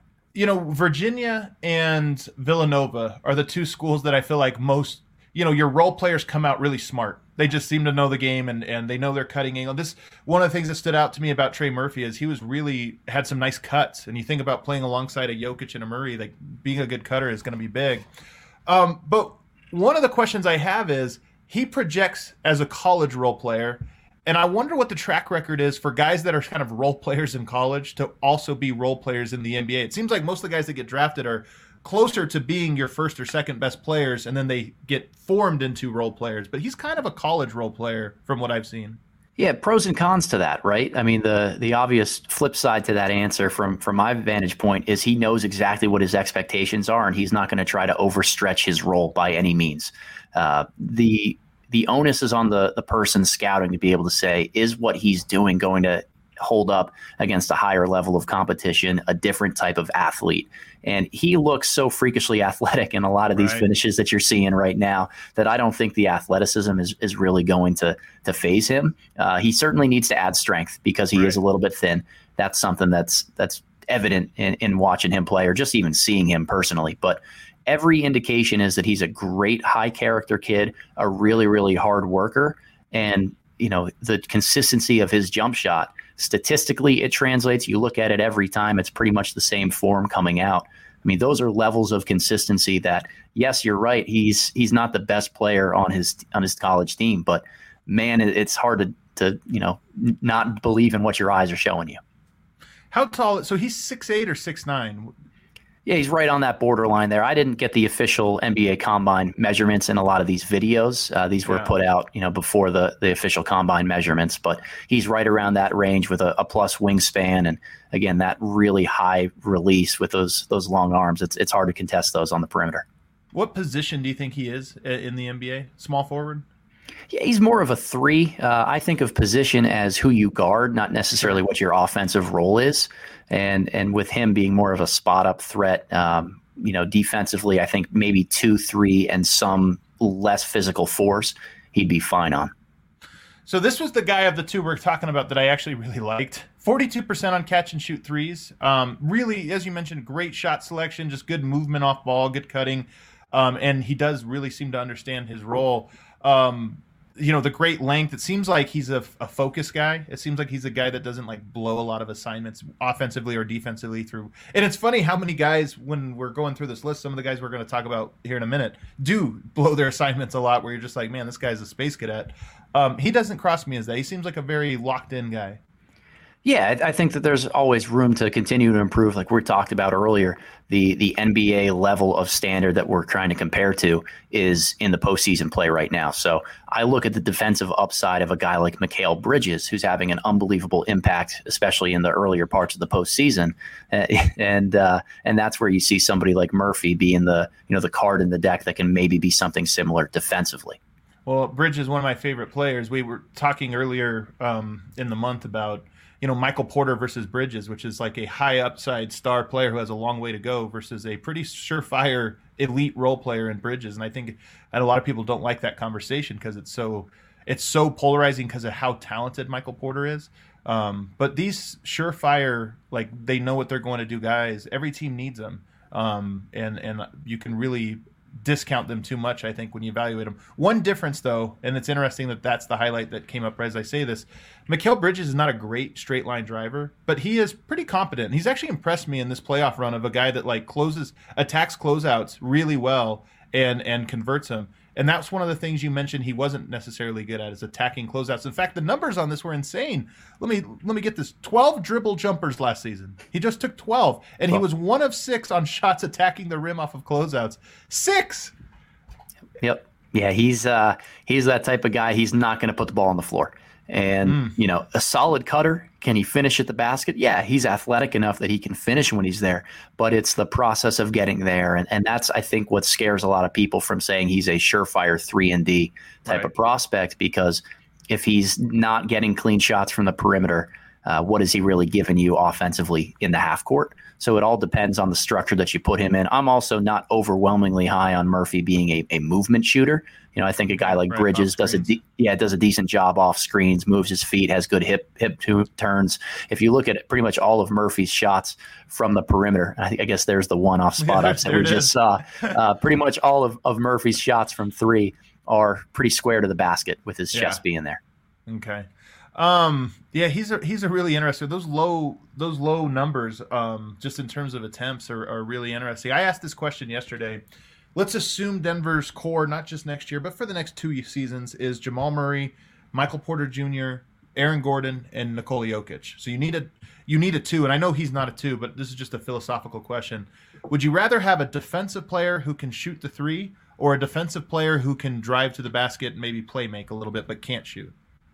B: Virginia and Villanova are the 2 schools that I feel like most, your role players come out really smart. They just seem to know the game and they know their cutting angle. One of the things that stood out to me about Trey Murphy is he was really had some nice cuts. And you think about playing alongside a Jokic and a Murray, like being a good cutter is going to be big. But one of the questions I have is, he projects as a college role player, and I wonder what the track record is for guys that are kind of role players in college to also be role players in the NBA. It seems like most of the guys that get drafted are closer to being your first or second best players, and then they get formed into role players. But he's kind of a college role player from what I've seen.
C: Yeah, pros and cons to that, right? I mean, the obvious flip side to that answer from my vantage point is he knows exactly what his expectations are, and he's not going to try to overstretch his role by any means. The onus is on the person scouting to be able to say, is what he's doing going to hold up against a higher level of competition, a different type of athlete? And he looks so freakishly athletic in a lot of these finishes that you're seeing right now that I don't think the athleticism is really going to phase him. He certainly needs to add strength because he is a little bit thin. That's something that's evident in watching him play or just even seeing him personally. But every indication is that he's a great high character kid, a really, really hard worker. And, the consistency of his jump shot, statistically, it translates. You look at it every time, it's pretty much the same form coming out. I mean, those are levels of consistency that, yes, you're right. He's not the best player on his college team, but man, it's hard to not believe in what your eyes are showing you.
B: How tall? So he's 6'8" or 6'9"?
C: Yeah, he's right on that borderline there. I didn't get the official NBA Combine measurements in a lot of these videos. These were put out, before the official Combine measurements, but he's right around that range with a plus wingspan. And again, that really high release with those long arms. It's hard to contest those on the perimeter.
B: What position do you think he is in the NBA? Small forward?
C: Yeah, he's more of a 3. I think of position as who you guard, not necessarily what your offensive role is. And with him being more of a spot-up threat, defensively, I think maybe 2-3 and some less physical force, he'd be fine on.
B: So this was the guy of the 2 we're talking about that I actually really liked. 42% on catch-and-shoot threes. Really, as you mentioned, great shot selection, just good movement off ball, good cutting. And he does really seem to understand his role. The great length. It seems like he's a focus guy. It seems like he's a guy that doesn't blow a lot of assignments offensively or defensively through. And it's funny how many guys, when we're going through this list, some of the guys we're going to talk about here in a minute do blow their assignments a lot where you're just like, man, this guy's a space cadet. He doesn't cross me as that. He seems like a very locked in guy.
C: Yeah, I think that there's always room to continue to improve. Like we talked about earlier, the NBA level of standard that we're trying to compare to is in the postseason play right now. So I look at the defensive upside of a guy like Mikal Bridges, who's having an unbelievable impact, especially in the earlier parts of the postseason. And that's where you see somebody like Murphy being the card in the deck that can maybe be something similar defensively.
B: Well, Bridges is one of my favorite players. We were talking earlier in the month about Michael Porter versus Bridges, which is like a high upside star player who has a long way to go versus a pretty surefire elite role player in Bridges. And I think a lot of people don't like that conversation because it's so polarizing because of how talented Michael Porter is. But these surefire, they know what they're going to do guys, every team needs them. And you can really discount them too much, I think, when you evaluate them. One difference, though, and it's interesting that's the highlight that came up as I say this, Mikal Bridges is not a great straight line driver, but he is pretty competent. He's actually impressed me in this playoff run of a guy that attacks closeouts really well and converts them. And that's one of the things you mentioned he wasn't necessarily good at, is attacking closeouts. In fact, the numbers on this were insane. Let me get this: 12 dribble jumpers last season. He just took 12, and he was 1 of 6 on shots attacking the rim off of closeouts. 6.
C: Yep. Yeah, he's that type of guy. He's not going to put the ball on the floor. And, a solid cutter. Can he finish at the basket? Yeah, he's athletic enough that he can finish when he's there. But it's the process of getting there. And that's, I think, what scares a lot of people from saying he's a surefire 3-and-D type of prospect, because if he's not getting clean shots from the perimeter, what is he really giving you offensively in the half court? So it all depends on the structure that you put him in. I'm also not overwhelmingly high on Murphy being a movement shooter. I think a guy like Bridges does a decent job off screens, moves his feet, has good hip turns. If you look at pretty much all of Murphy's shots from the perimeter, I guess there's the one off spot ups that we just saw. Pretty much all of Murphy's shots from 3 are pretty square to the basket with his chest being there.
B: Okay. He's a really interesting. Those low numbers, just in terms of attempts, are really interesting. I asked this question yesterday. Let's assume Denver's core, not just next year, but for the next 2 seasons, is Jamal Murray, Michael Porter Jr., Aaron Gordon, and Nikola Jokic. So you need a 2, and I know he's not a 2, but this is just a philosophical question. Would you rather have a defensive player who can shoot the 3, or a defensive player who can drive to the basket and maybe play make a little bit but can't shoot?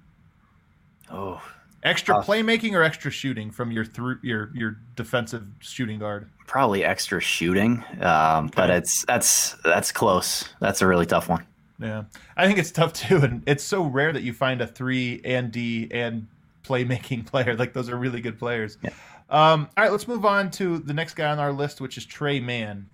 C: Oh,
B: extra playmaking or extra shooting from your defensive shooting guard?
C: Probably extra shooting, but that's close. That's a really tough one.
B: Yeah, I think it's tough too, and it's so rare that you find a 3-and-D and playmaking player. Like, those are really good players. Yeah. All right, let's move on to the next guy on our list, which is Tre Mann.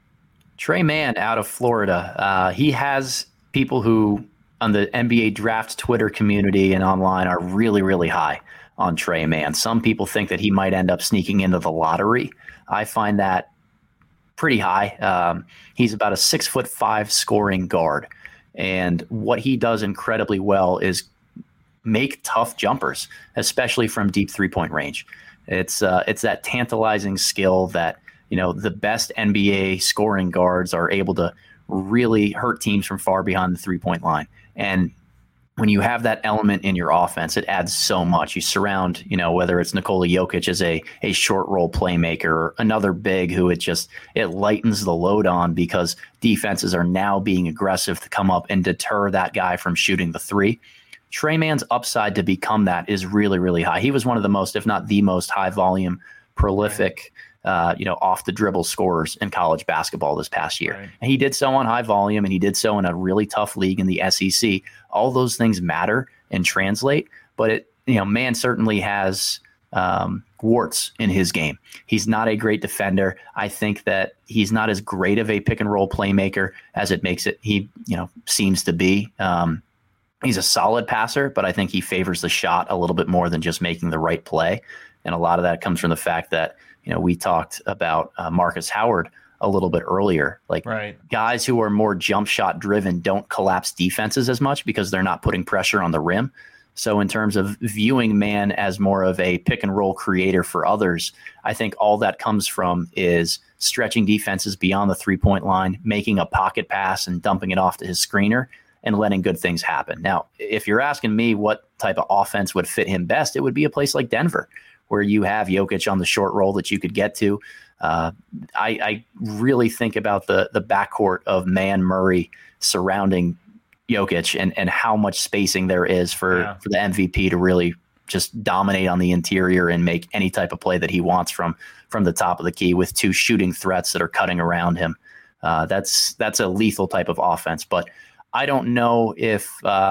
C: Tre Mann out of Florida. He has people who on the NBA draft Twitter community and online are really, really high on Tre Mann. Some people think that he might end up sneaking into the lottery. I find that pretty high. He's about a 6'5" scoring guard. And what he does incredibly well is make tough jumpers, especially from deep 3-point range. It's that tantalizing skill that, the best NBA scoring guards are able to really hurt teams from far behind the 3-point line. And when you have that element in your offense, it adds so much. You surround, whether it's Nikola Jokic as a short roll playmaker, or another big who it lightens the load on, because defenses are now being aggressive to come up and deter that guy from shooting the 3. Tre Mann's upside to become that is really, really high. He was one of the most, if not the most high volume, prolific, off the dribble scorers in college basketball this past year. Right. And he did so on high volume, and he did so in a really tough league in the SEC. All those things matter and translate, but Mann certainly has warts in his game. He's not a great defender. I think that he's not as great of a pick and roll playmaker as he seems to be. He's a solid passer, but I think he favors the shot a little bit more than just making the right play. And a lot of that comes from the fact that, we talked about Marcus Howard a little bit earlier. Guys who are more jump shot driven don't collapse defenses as much because they're not putting pressure on the rim. So in terms of viewing Mann as more of a pick and roll creator for others, I think all that comes from is stretching defenses beyond the 3-point line, making a pocket pass and dumping it off to his screener, and letting good things happen. Now, if you're asking me what type of offense would fit him best, it would be a place like Denver, where you have Jokic on the short roll that you could get to. I really think about the backcourt of Mann, Murray surrounding Jokic, and how much spacing there is for the MVP to really just dominate on the interior and make any type of play that he wants from the top of the key, with 2 shooting threats that are cutting around him. That's a lethal type of offense. But I don't know if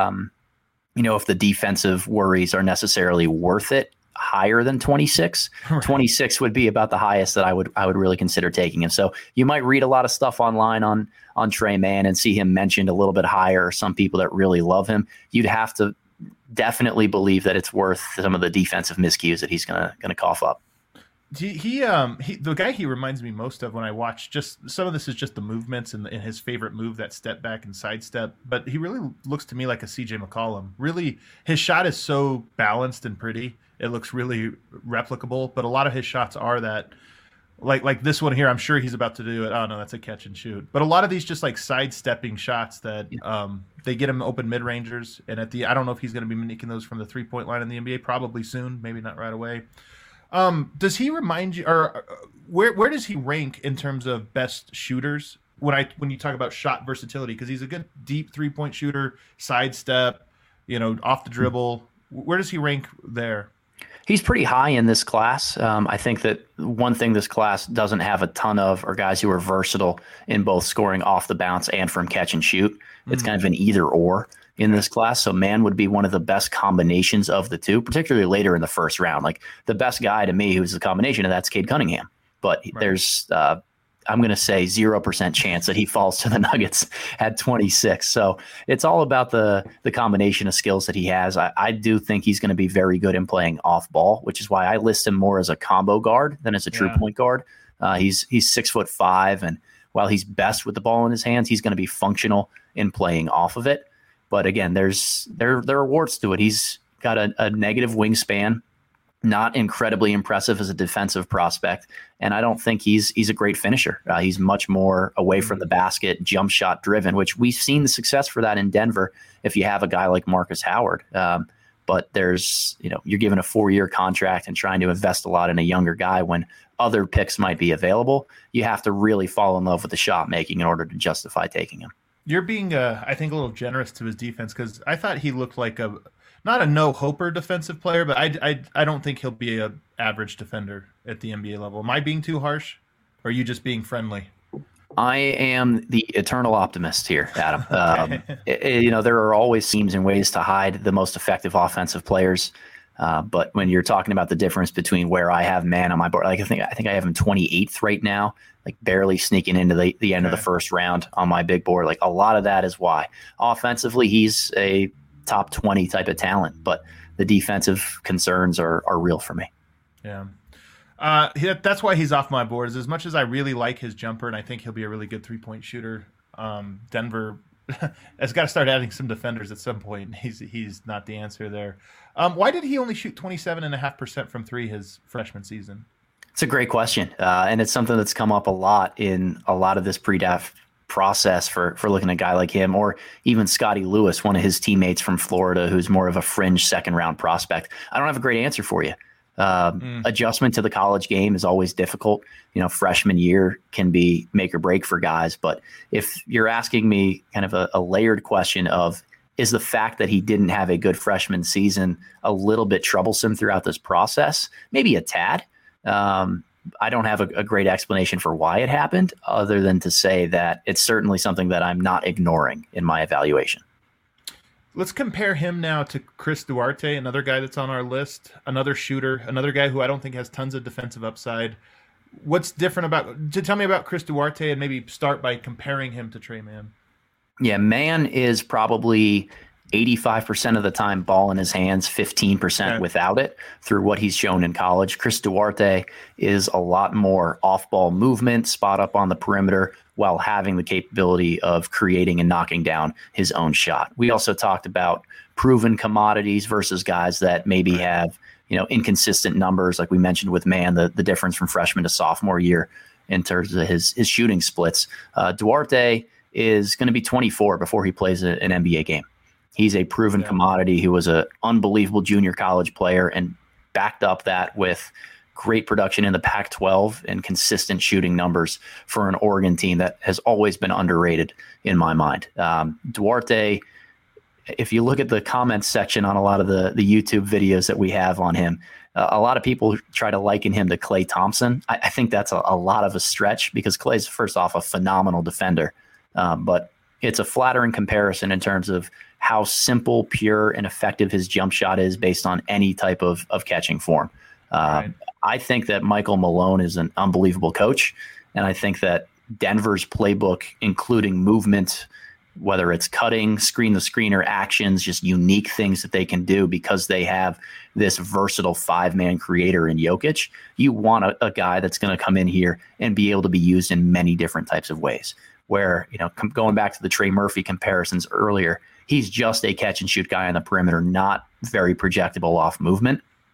C: if the defensive worries are necessarily worth it higher than 26. Right. 26 would be about the highest that I would really consider taking him. So you might read a lot of stuff online on Tre Mann and see him mentioned a little bit higher, or some people that really love him. You'd have to definitely believe that it's worth some of the defensive miscues that he's gonna cough up.
B: The guy he reminds me most of when I watch, just some of this is just the movements and his favorite move, that step back and sidestep, but he really looks to me like a CJ McCollum. Really, his shot is so balanced and pretty. It looks really replicable, but a lot of his shots are that like this one here, I'm sure he's about to do it. Oh no, that's a catch and shoot. But a lot of these just like sidestepping shots that they get him open mid rangers, and I don't know if he's going to be making those from the 3-point line in the NBA. Probably soon, maybe not right away. Does he remind you, or where does he rank in terms of best shooters when you talk about shot versatility? Because he's a good deep 3-point shooter, sidestep, off the dribble. Where does he rank there?
C: He's pretty high in this class. I think that one thing this class doesn't have a ton of are guys who are versatile in both scoring off the bounce and from catch and shoot. It's kind of an either or in this class. So Mann would be one of the best combinations of the two, particularly later in the first round. Like the best guy to me who's the combination of that's Cade Cunningham. But there's I'm going to say 0% chance that he falls to the Nuggets at 26. So it's all about the combination of skills that he has. I do think he's going to be very good in playing off ball, which is why I list him more as a combo guard than as a true point guard. He's 6'5", and while he's best with the ball in his hands, he's going to be functional in playing off of it. But again, there are warts to it. He's got a negative wingspan. Not incredibly impressive as a defensive prospect, and I don't think he's a great finisher. He's much more away from the basket, jump shot driven, which we've seen the success for that in Denver if you have a guy like Marcus Howard. But there's, you're given a 4-year contract and trying to invest a lot in a younger guy when other picks might be available. You have to really fall in love with the shot making in order to justify taking him.
B: You're being, I think, a little generous to his defense, because I thought he looked like not a no-hoper defensive player, but I don't think he'll be an average defender at the NBA level. Am I being too harsh, or are you just being friendly?
C: I am the eternal optimist here, Adam. There are always schemes and ways to hide the most effective offensive players, but when you're talking about the difference between where I have Mann on my board, like I think I have him 28th right now, like barely sneaking into the end of the first round on my big board. Like a lot of that is why offensively he's a top 20 type of talent, but the defensive concerns are real for me.
B: Yeah. That's why he's off my board. As much as I really like his jumper and I think he'll be a really good 3-point shooter, Denver has got to start adding some defenders at some point. He's not the answer there. Why did he only shoot 27.5% from three his freshman season?
C: It's a great question. And it's something that's come up a lot in a lot of this pre-draft process for looking at a guy like him, or even Scotty Lewis, one of his teammates from Florida, who's more of a fringe second round prospect. I don't have a great answer for you. Adjustment to the college game is always difficult. Freshman year can be make or break for guys. But if you're asking me kind of a layered question of, is the fact that he didn't have a good freshman season a little bit troublesome throughout this process? Maybe a tad. I don't have a great explanation for why it happened, other than to say that it's certainly something that I'm not ignoring in my evaluation.
B: Let's compare him now to Chris Duarte, another guy that's on our list, another shooter, another guy who I don't think has tons of defensive upside. What's different tell me about Chris Duarte, and maybe start by comparing him to Tre Mann.
C: Yeah, Mann is probably 85% of the time ball in his hands, 15% without it through what he's shown in college. Chris Duarte is a lot more off-ball movement, spot up on the perimeter, while having the capability of creating and knocking down his own shot. We also talked about proven commodities versus guys that maybe have, inconsistent numbers, like we mentioned with Mann, the difference from freshman to sophomore year in terms of his shooting splits. Duarte is going to be 24 before he plays an NBA game. He's a proven commodity who was an unbelievable junior college player and backed up that with great production in the Pac-12 and consistent shooting numbers for an Oregon team that has always been underrated in my mind. Duarte, if you look at the comments section on a lot of the YouTube videos that we have on him, a lot of people try to liken him to Klay Thompson. I think that's a lot of a stretch, because Klay's, first off, a phenomenal defender, but it's a flattering comparison in terms of how simple, pure, and effective his jump shot is based on any type of catching form. Right. I think that Michael Malone is an unbelievable coach, and I think that Denver's playbook, including movement, whether it's cutting, screen-the-screener actions, just unique things that they can do because they have this versatile five-man creator in Jokic. You want a guy that's going to come in here and be able to be used in many different types of ways. Where, going back to the Trey Murphy comparisons earlier, he's just a catch-and-shoot guy on the perimeter, not very projectable off movement.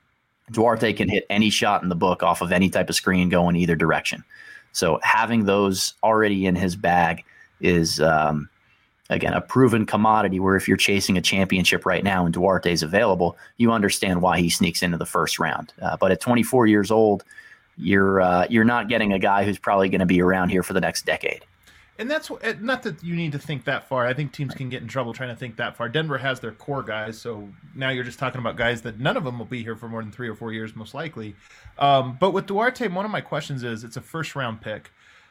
C: Duarte can hit any shot in the book off of any type of screen going either direction. So having those already in his bag is, again, a proven commodity where if you're chasing a championship right now and Duarte's available, you understand why he sneaks into the first round. But at 24 years old, you're not getting a guy who's probably going to be around here for the next decade.
B: And that's not that you need to think that far. I think teams can get in trouble trying to think that far. Denver has their core guys, so now you're just talking about guys that none of them will be here for more than 3 or 4 years, most likely. But with Duarte, one of my questions is, it's a first-round pick.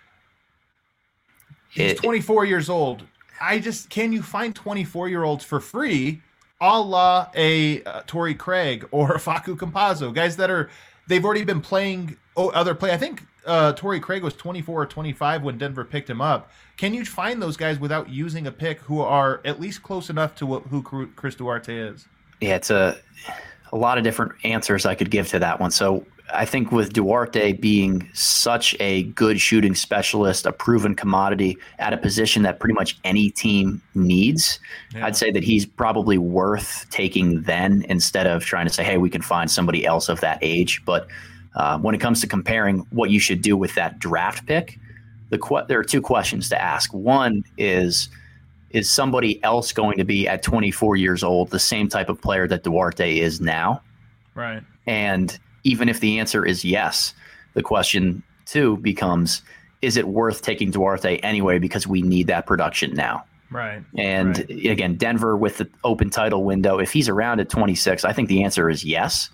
B: He's 24 years old. Can you find 24-year-olds for free, a la a Torrey Craig or a Facu Campazzo, guys that they've already been playing other play. I think Torrey Craig was 24 or 25 when Denver picked him up. Can you find those guys without using a pick who are at least close enough to who Chris Duarte is?
C: Yeah, it's a lot of different answers I could give to that one. So I think with Duarte being such a good shooting specialist, a proven commodity at a position that pretty much any team needs, I'd say that he's probably worth taking then instead of trying to say, hey, we can find somebody else of that age. But when it comes to comparing what you should do with that draft pick, there are two questions to ask. One is somebody else going to be at 24 years old the same type of player that Duarte is now?
B: Right.
C: And even if the answer is yes, the question two becomes, is it worth taking Duarte anyway because we need that production now?
B: Right.
C: And again, Denver with the open title window, if he's around at 26, I think the answer is yes.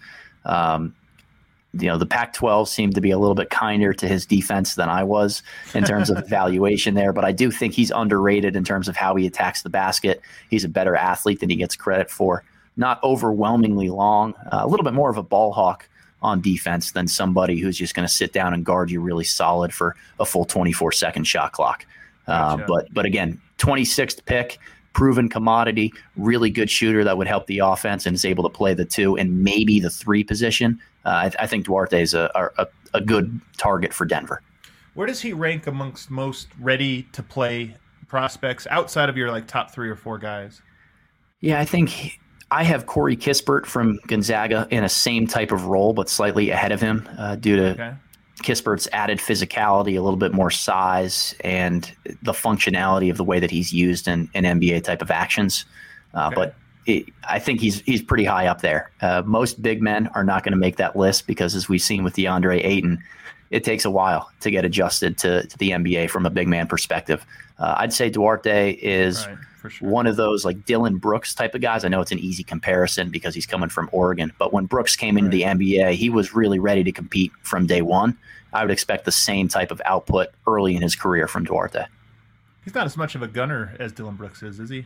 C: The Pac-12 seemed to be a little bit kinder to his defense than I was in terms of evaluation there, but I do think he's underrated in terms of how he attacks the basket. He's a better athlete than he gets credit for. Not overwhelmingly long, a little bit more of a ball hawk on defense than somebody who's just going to sit down and guard you really solid for a full 24-second shot clock. Gotcha. But again, 26th pick, proven commodity, really good shooter that would help the offense and is able to play the 2 and maybe the 3 position. I think Duarte is a good target for Denver.
B: Where does he rank amongst most ready-to-play prospects outside of your top 3 or 4 guys?
C: Yeah, I think I have Corey Kispert from Gonzaga in a same type of role, but slightly ahead of him due to Kispert's added physicality, a little bit more size, and the functionality of the way that he's used in NBA type of actions. But I think he's pretty high up there. Most big men are not going to make that list because, as we've seen with DeAndre Ayton, it takes a while to get adjusted to the NBA from a big man perspective. I'd say Duarte is one of those like Dylan Brooks type of guys. I know it's an easy comparison because he's coming from Oregon, but when Brooks came into the NBA, he was really ready to compete from day one. I would expect the same type of output early in his career from Duarte.
B: He's not as much of a gunner as Dylan Brooks is he?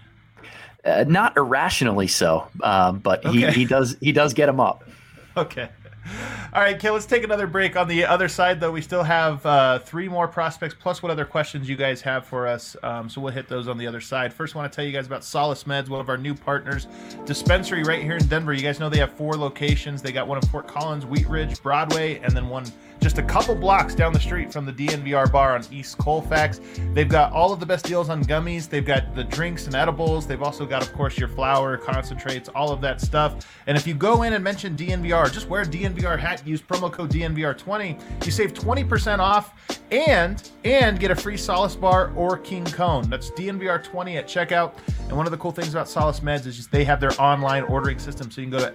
C: Not irrationally so, but he does get him up.
B: Okay. All right, Kay, let's take another break. On the other side, though, we still have 3 more prospects, plus what other questions you guys have for us. So we'll hit those on the other side. First, I want to tell you guys about Solace Meds, one of our new partners. Dispensary right here in Denver. You guys know they have 4 locations. They got one in Fort Collins, Wheat Ridge, Broadway, and then one just a couple blocks down the street from the DNVR bar on East Colfax. They've got all of the best deals on gummies. They've got the drinks and edibles. They've also got, of course, your flour, concentrates, all of that stuff. And if you go in and mention DNVR, just wear a DNVR hat, use promo code DNVR20, you save 20% off and get a free Solace bar or King Cone. That's DNVR20 at checkout. And one of the cool things about Solace Meds is just they have their online ordering system. So you can go to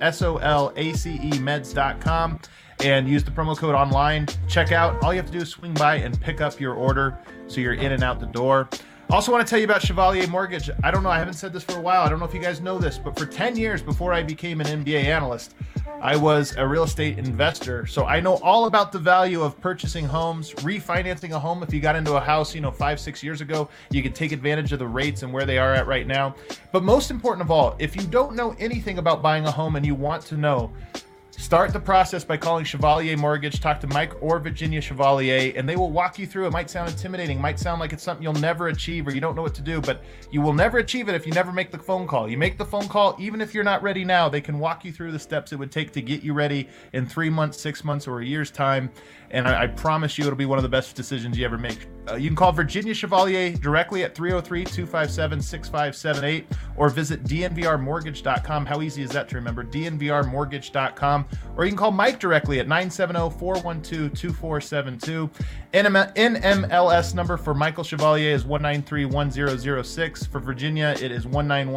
B: solacemeds.com and use the promo code online, check out. All you have to do is swing by and pick up your order so you're in and out the door. Also want to tell you about Chevalier Mortgage. I don't know, I haven't said this for a while. I don't know if you guys know this, but for 10 years before I became an MBA analyst, I was a real estate investor. So I know all about the value of purchasing homes, refinancing a home. If you got into a house, 5-6 years ago, you could take advantage of the rates and where they are at right now. But most important of all, if you don't know anything about buying a home and you want to know, start the process by calling Chevalier Mortgage. Talk to Mike or Virginia Chevalier, and they will walk you through. It might sound intimidating, might sound like it's something you'll never achieve or you don't know what to do, but you will never achieve it if you never make the phone call. You make the phone call, even if you're not ready now, they can walk you through the steps it would take to get you ready in 3 months, 6 months, or a year's time. And I promise you it'll be one of the best decisions you ever make. You can call Virginia Chevalier directly at 303-257-6578 or visit dnvrmortgage.com. How easy is that to remember? dnvrmortgage.com. Or you can call Mike directly at 970-412-2472. NMLS number for Michael Chevalier is 1931006. For Virginia, it is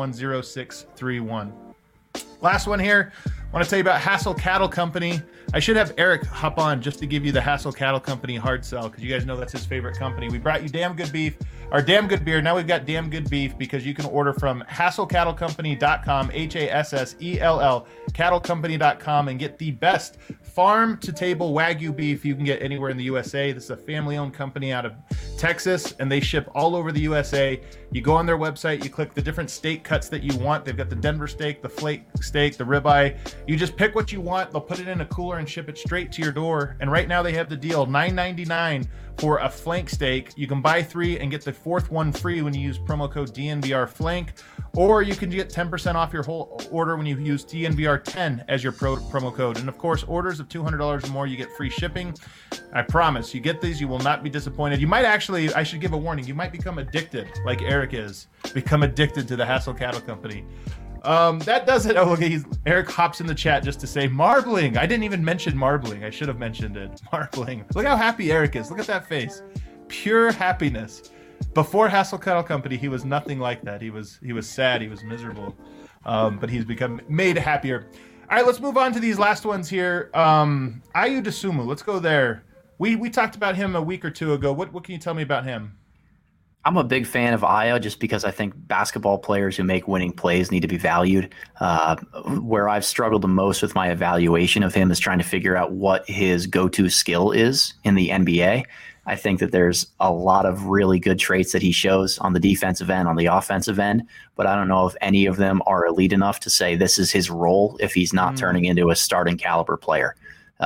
B: 1910631. Last one here. I want to tell you about Hassel Cattle Company. I should have Eric hop on just to give you the Hassel Cattle Company hard sell, because you guys know that's his favorite company. We brought you Damn Good Beef, or Damn Good Beer. Now we've got Damn Good Beef, because you can order from HasselCattleCompany.com, HASSELL, cattlecompany.com, and get the best farm-to-table Wagyu beef you can get anywhere in the USA. This is a family-owned company out of Texas, and they ship all over the USA. You go on their website, you click the different steak cuts that you want. They've got the Denver steak, the flake steak, the ribeye. You just pick what you want. They'll put it in a cooler and ship it straight to your door. And right now they have the deal, $9.99 for a flank steak. You can buy 3 and get the 4th one free when you use promo code DNVRFlank, or you can get 10% off your whole order when you use DNVR10 as your promo code. And of course, orders of $200 or more, you get free shipping. I promise, you get these, you will not be disappointed. You might actually, I should give a warning, you might become addicted like Eric is. Become addicted to the Hassel Cattle Company. That does it. Oh, okay. Eric hops in the chat just to say marbling. I didn't even mention marbling. I should have mentioned it. Marbling. Look how happy Eric is. Look at that face. Pure happiness. Before Hassel Cattle Company, he was nothing like that. He was sad. He was miserable. But he's become made happier. All right, let's move on to these last ones here. Ayo Dosunmu. Let's go there. We talked about him a week or two ago. What can you tell me about him?
C: I'm a big fan of Ayo just because I think basketball players who make winning plays need to be valued. Where I've struggled the most with my evaluation of him is trying to figure out what his go-to skill is in the NBA. I think that there's a lot of really good traits that he shows on the defensive end, on the offensive end, but I don't know if any of them are elite enough to say this is his role if he's not turning into a starting caliber player.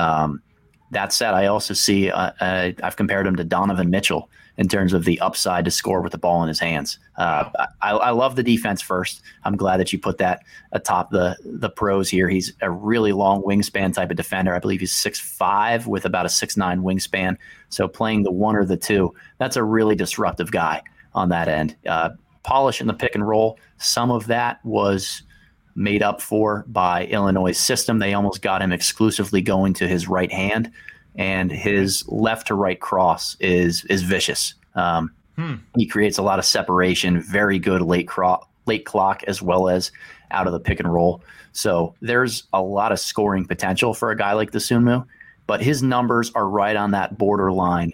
C: That said, I also see I've compared him to Donovan Mitchell in terms of the upside to score with the ball in his hands. I love the defense first. I'm glad that you put that atop the pros here. He's a really long wingspan type of defender. I believe he's 6'5" with about a 6'9" wingspan. So playing the 1 or the 2, that's a really disruptive guy on that end. Polish in the pick and roll. Some of that was made up for by Illinois' system. They almost got him exclusively going to his right hand, and his left to right cross is vicious. He creates a lot of separation, very good late clock as well as out of the pick and roll. So there's a lot of scoring potential for a guy like Dosunmu, but his numbers are right on that borderline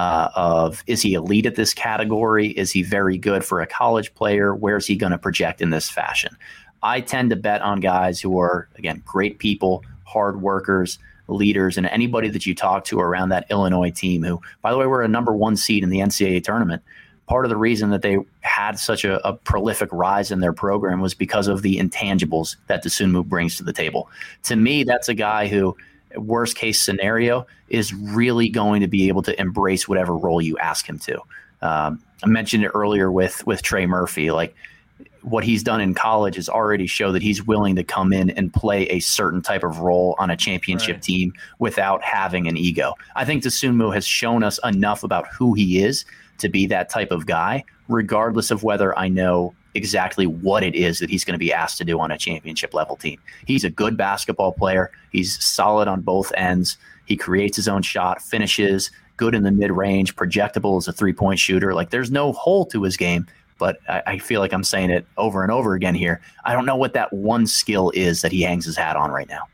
C: of, is he elite at this category? Is he very good for a college player? Where's he going to project in this fashion? I tend to bet on guys who are, again, great people, hard workers, leaders, and anybody that you talk to around that Illinois team who, by the way, were a number 1 seed in the NCAA tournament. Part of the reason that they had such a prolific rise in their program was because of the intangibles that Dosunmu brings to the table. To me, that's a guy who, worst case scenario, is really going to be able to embrace whatever role you ask him to. I mentioned it earlier with Trey Murphy. Like, what he's done in college is already show that he's willing to come in and play a certain type of role on a championship team without having an ego. I think Dosunmu has shown us enough about who he is to be that type of guy, regardless of whether I know exactly what it is that he's going to be asked to do on a championship level team. He's a good basketball player. He's solid on both ends. He creates his own shot, finishes, good in the mid-range, projectable as a three-point shooter. Like, there's no hole to his game. But I feel like I'm saying it over and over again here. I don't know what that one skill is that he hangs his hat on right now.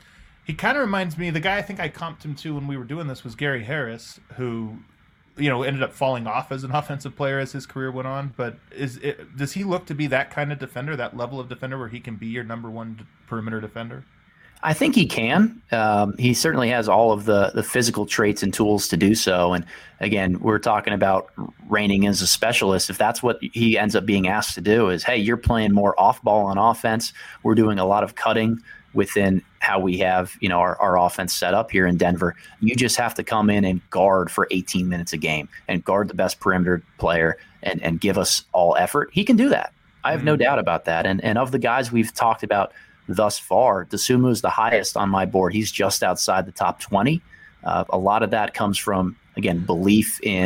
B: He kind of reminds me, the guy I think I comped him to when we were doing this was Gary Harris, who, ended up falling off as an offensive player as his career went on. But does he look to be that kind of defender, that level of defender where he can be your number 1 perimeter defender?
C: I think he can. He certainly has all of the physical traits and tools to do so. And again, we're talking about reigning as a specialist. If that's what he ends up being asked to do is, hey, you're playing more off ball on offense. We're doing a lot of cutting within how we have, our offense set up here in Denver. You just have to come in and guard for 18 minutes a game and guard the best perimeter player and give us all effort. He can do that. I have no doubt about that. And of the guys we've talked about thus far, Dosunmu is the highest on my board. He's just outside the top 20. A lot of that comes from, again, belief in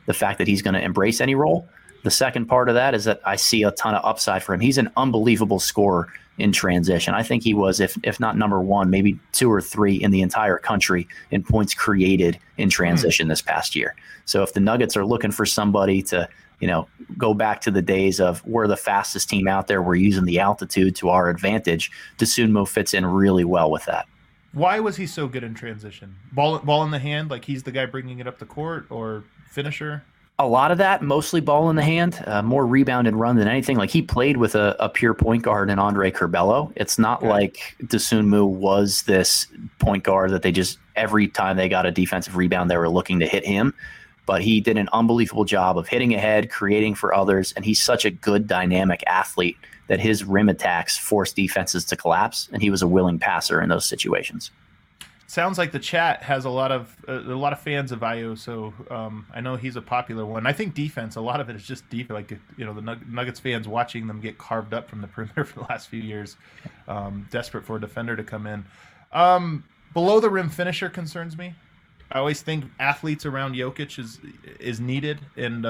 C: the fact that he's going to embrace any role. The second part of that is that I see a ton of upside for him. He's an unbelievable scorer in transition. I think he was, if not number one, maybe 2 or 3 in the entire country in points created in transition this past year. So if the Nuggets are looking for somebody to, go back to the days of we're the fastest team out there, we're using the altitude to our advantage, Dosunmu fits in really well with that.
B: Why was he so good in transition? Ball in the hand, like he's the guy bringing it up the court, or finisher?
C: A lot of that, mostly ball in the hand, more rebound and run than anything. Like he played with a pure point guard in Andre Curbelo. It's not like Dosunmu was this point guard that they just, every time they got a defensive rebound, they were looking to hit him. But he did an unbelievable job of hitting ahead, creating for others, and he's such a good dynamic athlete that his rim attacks forced defenses to collapse, and he was a willing passer in those situations.
B: Sounds like the chat has a lot of fans of Ayo, so I know he's a popular one. I think defense, a lot of it is just deep. Like the Nuggets fans watching them get carved up from the perimeter for the last few years, desperate for a defender to come in. Below the rim finisher concerns me. I always think athletes around Jokic is needed, and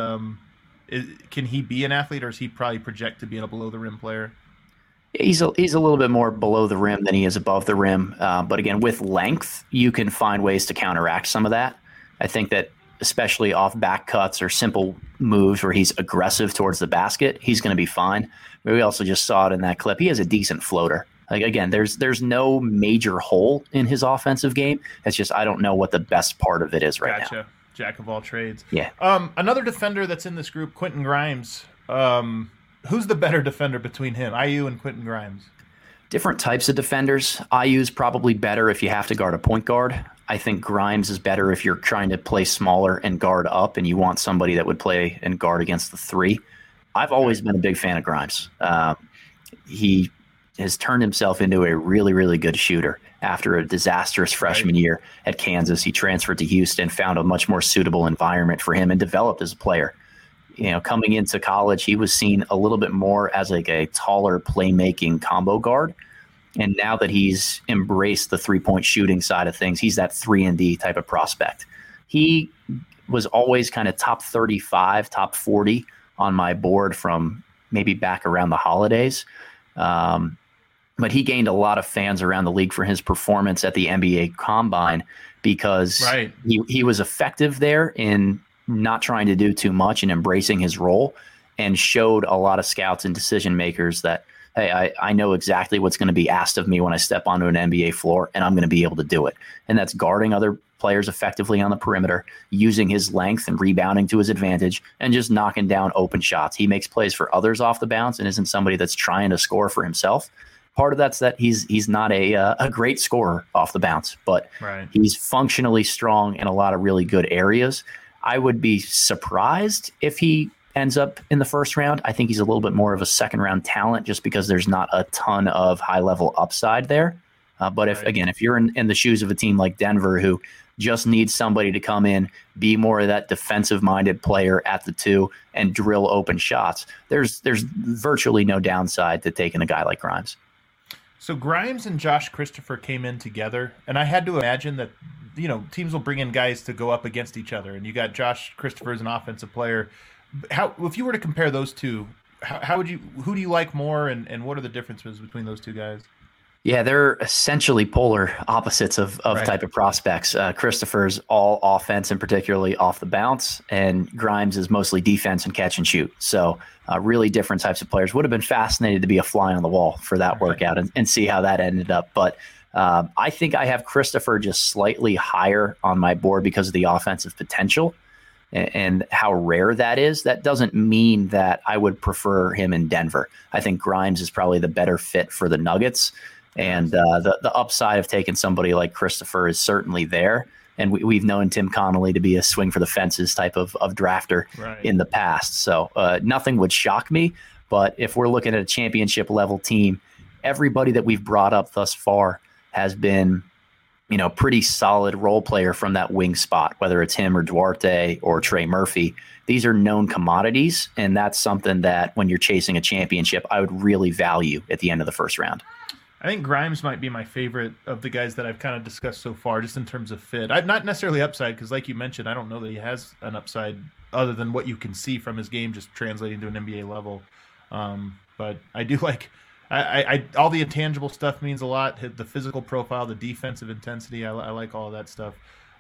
B: can he be an athlete, or is he probably project to be a below the rim player?
C: He's a little bit more below the rim than he is above the rim. But again, with length, you can find ways to counteract some of that. I think that especially off back cuts or simple moves where he's aggressive towards the basket, he's going to be fine. But we also just saw it in that clip. He has a decent floater. Like again, there's no major hole in his offensive game. It's just I don't know what the best part of it is right now.
B: Gotcha. Jack of all trades.
C: Yeah.
B: Another defender that's in this group, Quentin Grimes. Who's the better defender between him, Ayo and Quentin Grimes?
C: Different types of defenders. Ayu's probably better if you have to guard a point guard. I think Grimes is better if you're trying to play smaller and guard up and you want somebody that would play and guard against the 3. I've always been a big fan of Grimes. He has turned himself into a really, really good shooter. After a disastrous freshman year at Kansas, he transferred to Houston, found a much more suitable environment for him, and developed as a player. Coming into college, he was seen a little bit more as like a taller playmaking combo guard. And now that he's embraced the 3-point shooting side of things, he's that 3-and-D type of prospect. He was always kind of top 35, top 40 on my board from maybe back around the holidays. But he gained a lot of fans around the league for his performance at the NBA Combine because he was effective there in not trying to do too much and embracing his role, and showed a lot of scouts and decision makers that, hey, I know exactly what's going to be asked of me when I step onto an NBA floor, and I'm going to be able to do it. And that's guarding other players effectively on the perimeter, using his length and rebounding to his advantage, and just knocking down open shots. He makes plays for others off the bounce and isn't somebody that's trying to score for himself. Part of that's that he's not a great scorer off the bounce, but he's functionally strong in a lot of really good areas. I would be surprised if he ends up in the first round. I think he's a little bit more of a second round talent just because there's not a ton of high level upside there. But if you're in the shoes of a team like Denver who just needs somebody to come in, be more of that defensive minded player at the 2 and drill open shots, there's virtually no downside to taking a guy like Grimes.
B: So Grimes and Josh Christopher came in together, and I had to imagine that teams will bring in guys to go up against each other, and you got Josh Christopher as an offensive player. If you were to compare those two, who do you like more, and what are the differences between those two guys?
C: Yeah, they're essentially polar opposites of type of prospects. Christopher's all offense and particularly off the bounce, and Grimes is mostly defense and catch and shoot. So really different types of players. Would have been fascinated to be a fly on the wall for that workout and see how that ended up. But I think I have Christopher just slightly higher on my board because of the offensive potential and how rare that is. That doesn't mean that I would prefer him in Denver. I think Grimes is probably the better fit for the Nuggets. And the upside of taking somebody like Christopher is certainly there. And we've known Tim Connolly to be a swing for the fences type of drafter in the past. So nothing would shock me. But if we're looking at a championship level team, everybody that we've brought up thus far has been, pretty solid role player from that wing spot, whether it's him or Duarte or Trey Murphy. These are known commodities. And that's something that when you're chasing a championship, I would really value at the end of the first round.
B: I think Grimes might be my favorite of the guys that I've kind of discussed so far, just in terms of fit. Not necessarily upside, because like you mentioned, I don't know that he has an upside other than what you can see from his game just translating to an NBA level. But I do like I all the intangible stuff means a lot. The physical profile, the defensive intensity, I like all of that stuff.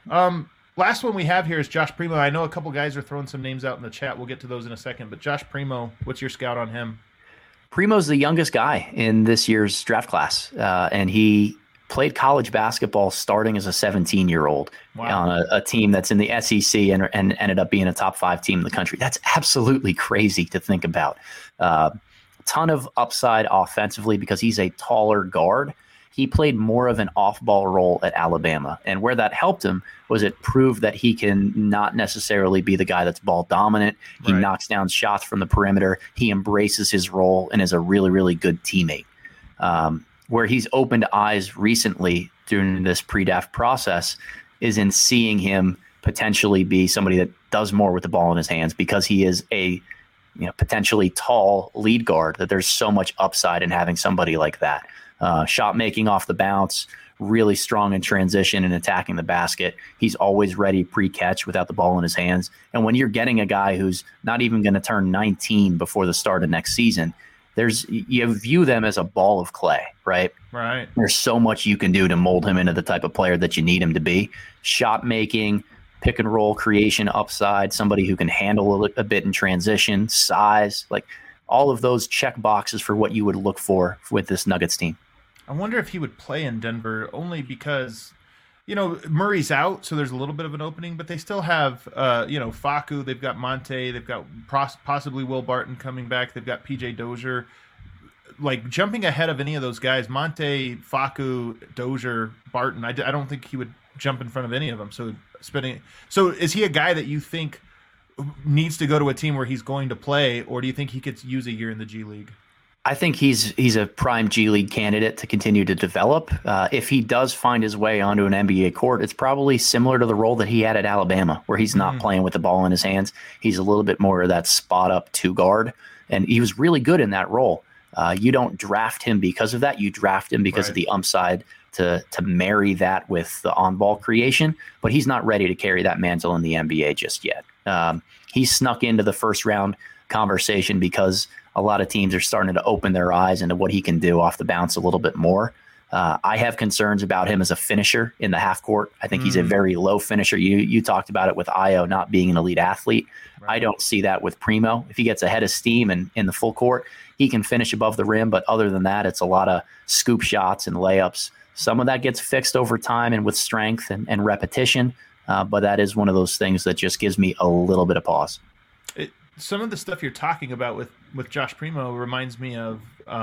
B: Last one we have here is Josh Primo. I know a couple guys are throwing some names out in the chat. We'll get to those in a second. But Josh Primo, what's your scout on him?
C: Primo's the youngest guy in this year's draft class, and he played college basketball starting as a 17-year-old on a team that's in the SEC and ended up being a top 5 team in the country. That's absolutely crazy to think about. A ton of upside offensively because he's a taller guard. He played more of an off-ball role at Alabama, and where that helped him was it proved that he can not necessarily be the guy that's ball dominant. He knocks down shots from the perimeter. He embraces his role and is a really, really good teammate. Where he's opened eyes recently during this pre-draft process is in seeing him potentially be somebody that does more with the ball in his hands because he is a potentially tall lead guard, that there's so much upside in having somebody like that. Shot making off the bounce, really strong in transition and attacking the basket. He's always ready pre-catch without the ball in his hands. And when you're getting a guy who's not even going to turn 19 before the start of next season, you view them as a ball of clay, right?
B: Right.
C: There's so much you can do to mold him into the type of player that you need him to be. Shot making, pick and roll creation upside, somebody who can handle a bit in transition, size, like all of those check boxes for what you would look for with this Nuggets team.
B: I wonder if he would play in Denver only because, Murray's out, so there's a little bit of an opening, but they still have, Facu, they've got Monte, they've got possibly Will Barton coming back, they've got PJ Dozier. Like, jumping ahead of any of those guys, Monte, Facu, Dozier, Barton, I don't think he would jump in front of any of them. So is he a guy that you think needs to go to a team where he's going to play, or do you think he could use a year in the G League?
C: I think he's a prime G League candidate to continue to develop. If he does find his way onto an NBA court, it's probably similar to the role that he had at Alabama, where he's not playing with the ball in his hands. He's a little bit more of that spot up 2 guard, and he was really good in that role. You don't draft him because of that. You draft him because of the upside to marry that with the on-ball creation, but he's not ready to carry that mantle in the NBA just yet. He snuck into the first round conversation because a lot of teams are starting to open their eyes into what he can do off the bounce a little bit more. I have concerns about him as a finisher in the half court. I think he's a very low finisher. You talked about it with Io not being an elite athlete. I don't see that with Primo. If he gets ahead of steam and in the full court, he can finish above the rim. But other than that, it's a lot of scoop shots and layups. Some of that gets fixed over time and with strength and repetition. But that is one of those things that just gives me a little bit of pause.
B: Some of the stuff you're talking about with Josh Primo reminds me of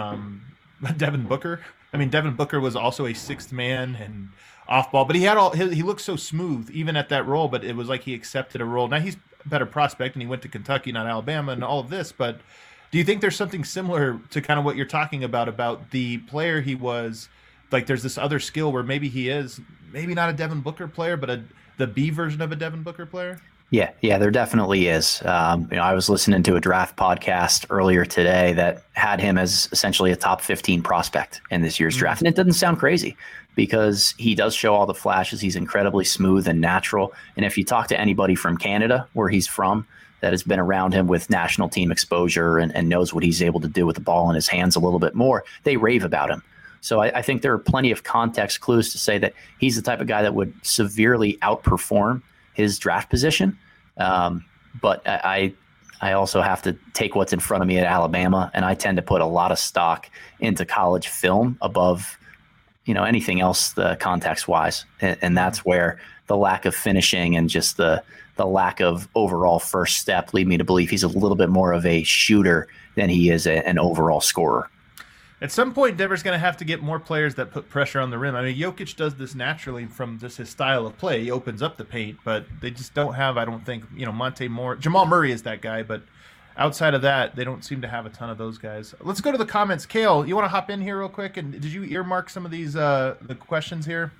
B: Devin Booker. I mean, Devin Booker was also a sixth man and off ball, but he looked so smooth even at that role, but it was like he accepted a role. Now he's a better prospect and he went to Kentucky, not Alabama, and all of this, but do you think there's something similar to kind of what you're talking about the player he was? Like there's this other skill where maybe he is maybe not a Devin Booker player, but the B version of a Devin Booker player? Yeah,
C: there definitely is. I was listening to a draft podcast earlier today that had him as essentially a top 15 prospect in this year's draft. And it doesn't sound crazy because he does show all the flashes. He's incredibly smooth and natural. And if you talk to anybody from Canada, where he's from, that has been around him with national team exposure and knows what he's able to do with the ball in his hands a little bit more, they rave about him. So I think there are plenty of context clues to say that he's the type of guy that would severely outperform his draft position. But I also have to take what's in front of me at Alabama, and I tend to put a lot of stock into college film above, anything else, the context wise. And that's where the lack of finishing and just the lack of overall first step lead me to believe he's a little bit more of a shooter than he is an overall scorer.
B: At some point, Denver's going to have to get more players that put pressure on the rim. I mean, Jokic does this naturally from just his style of play. He opens up the paint, but they just don't have, I don't think, Monte Moore. Jamal Murray is that guy, but outside of that, they don't seem to have a ton of those guys. Let's go to the comments. Kale, you want to hop in here real quick? And did you earmark some of these the questions here?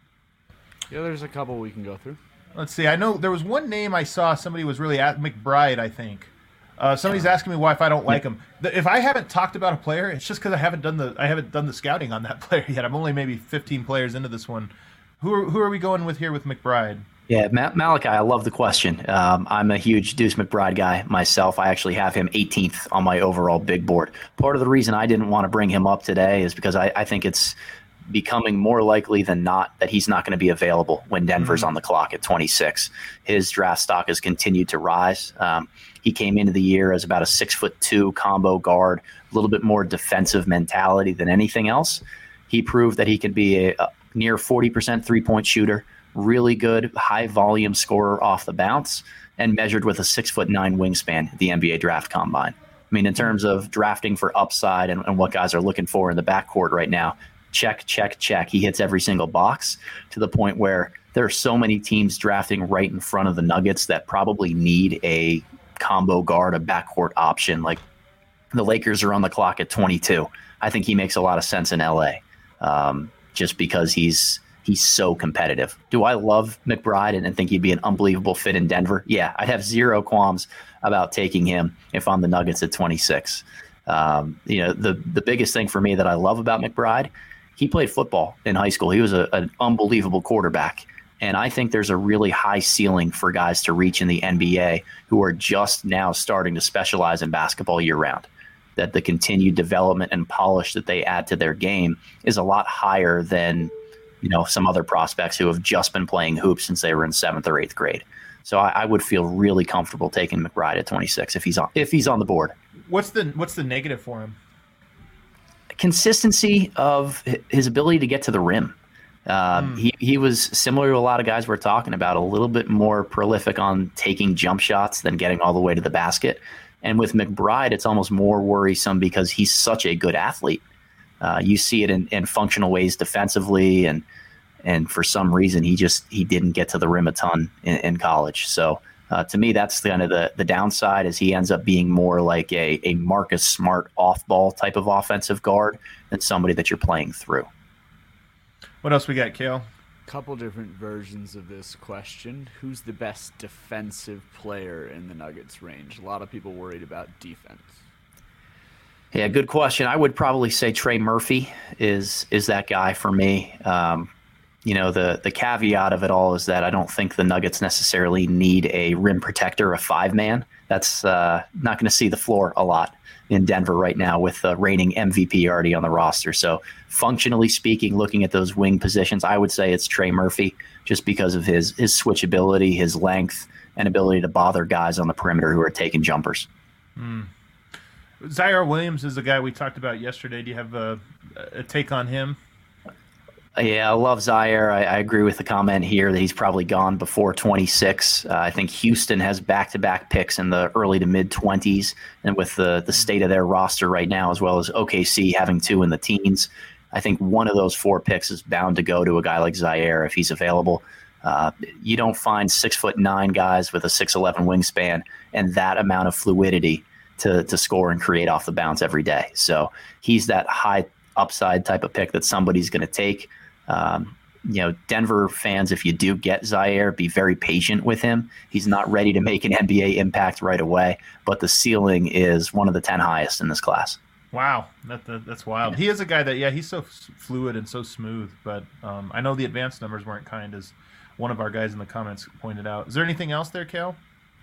D: Yeah, there's a couple we can go through.
B: Let's see. I know there was one name I saw somebody was really at, McBride, I think. Somebody's asking me why if I don't like him. If I haven't talked about a player, it's just because I haven't done the scouting on that player yet. I'm only maybe 15 players into this one. Who are we going with here with McBride?
C: Yeah, Malachi, I love the question. I'm a huge Deuce McBride guy myself. I actually have him 18th on my overall big board. Part of the reason I didn't want to bring him up today is because I think it's becoming more likely than not that he's not going to be available when Denver's on the clock at 26. His draft stock has continued to rise. He came into the year as about a 6'2" combo guard, a little bit more defensive mentality than anything else. He proved that he could be a near 40% three-point shooter, really good high volume scorer off the bounce, and measured with a 6'9" wingspan at the NBA draft combine. I mean, in terms of drafting for upside and what guys are looking for in the backcourt right now, check. He hits every single box, to the point where there are so many teams drafting right in front of the Nuggets that probably need a combo guard, a backcourt option. Like the Lakers are on the clock at 22. I think he makes a lot of sense in LA, just because he's so competitive. Do I love McBride and think he'd be an unbelievable fit in Denver? Yeah, I'd have zero qualms about taking him if I'm the Nuggets at 26. The biggest thing for me that I love about McBride, he played football in high school. He was an unbelievable quarterback. And I think there's a really high ceiling for guys to reach in the NBA who are just now starting to specialize in basketball year-round. That the continued development and polish that they add to their game is a lot higher than, some other prospects who have just been playing hoops since they were in 7th or 8th grade. So I would feel really comfortable taking McBride at 26 if he's on the board.
B: What's the negative for him?
C: Consistency of his ability to get to the rim. He was similar to a lot of guys we're talking about, a little bit more prolific on taking jump shots than getting all the way to the basket. And with McBride, it's almost more worrisome because he's such a good athlete. You see it in functional ways defensively, and for some reason he didn't get to the rim a ton in college. So to me, that's kind of the downside, is he ends up being more like a Marcus Smart off-ball type of offensive guard than somebody that you're playing through.
B: What else we got, Kale?
D: Couple different versions of this question. Who's the best defensive player in the Nuggets range? A lot of people worried about defense.
C: Yeah, good question. I would probably say Trey Murphy is that guy for me. The caveat of it all is that I don't think the Nuggets necessarily need a rim protector, a 5-man. That's not going to see the floor a lot in Denver right now with the reigning MVP already on the roster. So functionally speaking, looking at those wing positions, I would say it's Trey Murphy, just because of his switchability, his length, and ability to bother guys on the perimeter who are taking jumpers.
B: Zaire Williams is the guy we talked about yesterday. Do you have a take on him?
C: Yeah, I love Zaire. I agree with the comment here that he's probably gone before 26. I think Houston has back-to-back picks in the early to mid-20s, and with the state of their roster right now, as well as OKC having 2 in the teens, I think one of those 4 picks is bound to go to a guy like Zaire if he's available. You don't find 6'9" guys with a 6'11" wingspan and that amount of fluidity to score and create off the bounce every day. So he's that high upside type of pick that somebody's going to take. Denver fans, if you do get Zaire, be very patient with him. He's not ready to make an NBA impact right away, but the ceiling is one of the 10 highest in this class.
B: Wow, that's wild. He is a guy that, he's so fluid and so smooth, but I know the advanced numbers weren't kind, as one of our guys in the comments pointed out. Is there anything else there, Cal?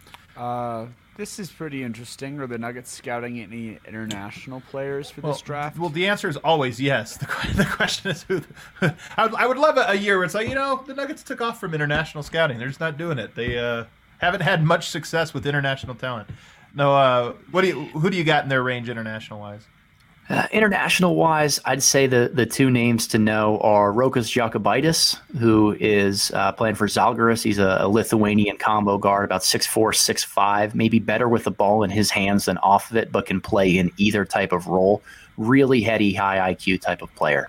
D: This is pretty interesting. Are the Nuggets scouting any international players for this draft?
B: Well, the answer is always yes. The question is who. I would love a year where it's like, the Nuggets took off from international scouting. They're just not doing it. They haven't had much success with international talent. No, who do you got in their range international-wise?
C: International-wise, I'd say the 2 names to know are Rokas Jokubaitis, who is playing for Žalgiris. He's a Lithuanian combo guard, about 6'4", 6'5", maybe better with the ball in his hands than off of it, but can play in either type of role. Really heady, high IQ type of player.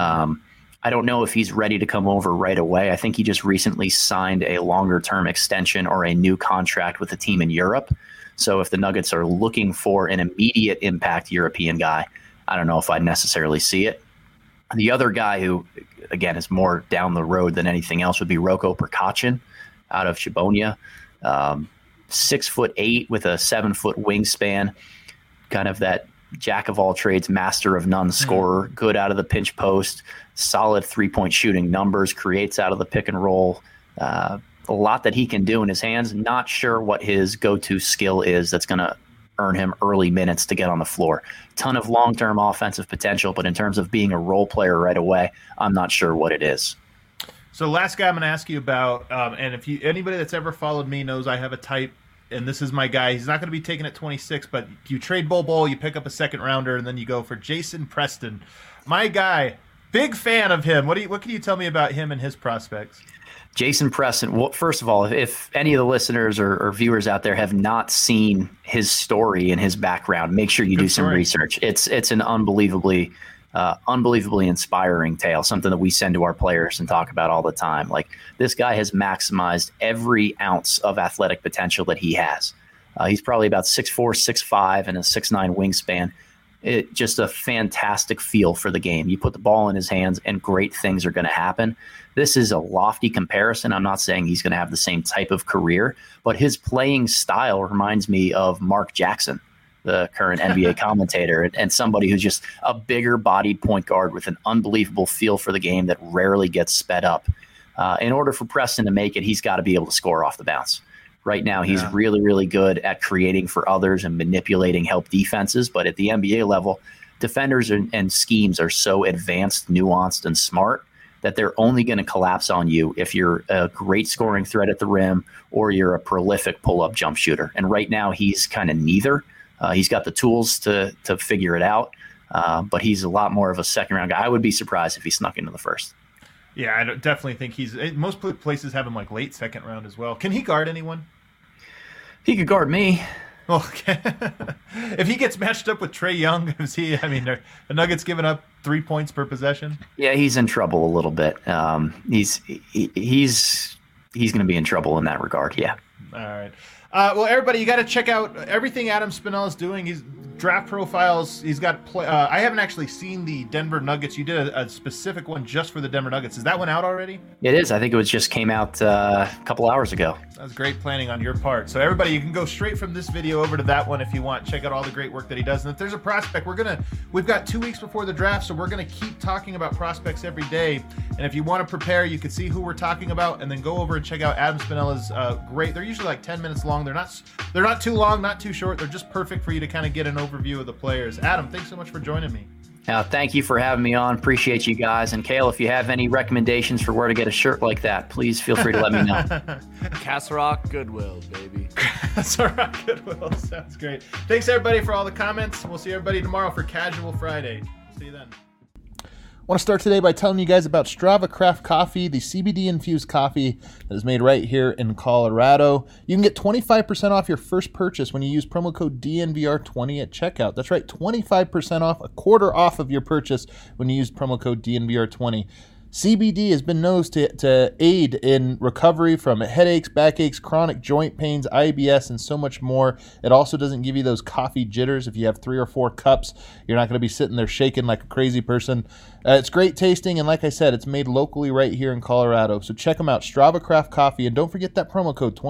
C: I don't know if he's ready to come over right away. I think he just recently signed a longer-term extension or a new contract with a team in Europe. So if the Nuggets are looking for an immediate impact European guy, I don't know if I'd necessarily see it. The other guy who, again, is more down the road than anything else would be Roko Prkačin out of Chibonia. 6'8" with a 7-foot wingspan, kind of that jack of all trades, master of none scorer, good out of the pinch post, solid 3-point shooting numbers, creates out of the pick and roll. A lot that he can do in his hands. Not sure what his go-to skill is that's going to earn him early minutes to get on the floor. Ton of long-term offensive potential, but in terms of being a role player right away, I'm not sure what it is.
B: So last guy I'm going to ask you about, and if anybody that's ever followed me knows I have a type, and this is my guy. He's not going to be taken at 26, but you trade Bol, you pick up a second rounder, and then you go for Jason Preston. My guy, big fan of him. What can you tell me about him and his prospects?
C: Jason Preston, well, first of all, if any of the listeners or viewers out there have not seen his story and his background, make sure you do some research. It's an unbelievably inspiring tale, something that we send to our players and talk about all the time. Like, this guy has maximized every ounce of athletic potential that he has. He's probably about 6'4", 6'5", and a 6'9" wingspan. Just a fantastic feel for the game. You put the ball in his hands and great things are going to happen. This is a lofty comparison. I'm not saying he's going to have the same type of career, but his playing style reminds me of Mark Jackson, the current NBA commentator, and somebody who's just a bigger bodied point guard with an unbelievable feel for the game that rarely gets sped up. In order for Preston to make it, he's got to be able to score off the bounce. Right now, he's really, really good at creating for others and manipulating help defenses. But at the NBA level, defenders and schemes are so advanced, nuanced, and smart that they're only going to collapse on you if you're a great scoring threat at the rim or you're a prolific pull-up jump shooter. And right now, he's kind of neither. He's got the tools to figure it out, but he's a lot more of a second-round guy. I would be surprised if he snuck into the first.
B: Yeah, I definitely think most places have him like late second round as well. Can he guard anyone?
C: He could guard me.
B: Okay. If he gets matched up with Trae Young, the Nuggets giving up 3 points per possession?
C: Yeah, he's in trouble a little bit. He's going to be in trouble in that regard, yeah.
B: All right. Well, everybody, you got to check out everything Adam Spinell is doing. He's draft profiles. He's got I haven't actually seen the Denver Nuggets. You did a specific one just for the Denver Nuggets. Is that one out already?
C: It is. I think it just came out a couple hours ago.
B: That was great planning on your part. So everybody, you can go straight from this video over to that one if you want. Check out all the great work that he does. And if there's a prospect, we've got 2 weeks before the draft, so we're gonna keep talking about prospects every day. And if you want to prepare, you can see who we're talking about, and then go over and check out Adam Spinella's great. They're usually like 10 minutes long. They're not too long, not too short. They're just perfect for you to kind of get an overview of the players. Adam, thanks so much for joining me.
C: Thank you for having me on. Appreciate you guys. And Kale, if you have any recommendations for where to get a shirt like that, please feel free to let me know.
D: Castle Rock Goodwill, baby.
B: Castle Rock Goodwill. Sounds great. Thanks, everybody, for all the comments. We'll see everybody tomorrow for Casual Friday. See you then.
A: I want to start today by telling you guys about Strava Craft Coffee, the CBD-infused coffee that is made right here in Colorado. You can get 25% off your first purchase when you use promo code DNVR20 at checkout. That's right, 25% off, a quarter off of your purchase when you use promo code DNVR20. CBD has been known to aid in recovery from headaches, backaches, chronic joint pains, IBS, and so much more. It also doesn't give you those coffee jitters. If you have 3 or 4 cups, you're not going to be sitting there shaking like a crazy person. It's great tasting, and like I said, it's made locally right here in Colorado. So check them out, Strava Craft Coffee, and don't forget that promo code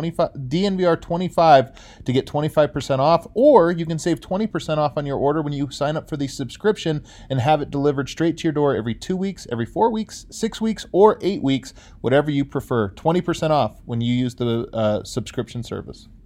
A: DNVR25 to get 25% off, or you can save 20% off on your order when you sign up for the subscription and have it delivered straight to your door every 2 weeks, every 4 weeks, 6 weeks, or 8 weeks, whatever you prefer. 20% off when you use the subscription service.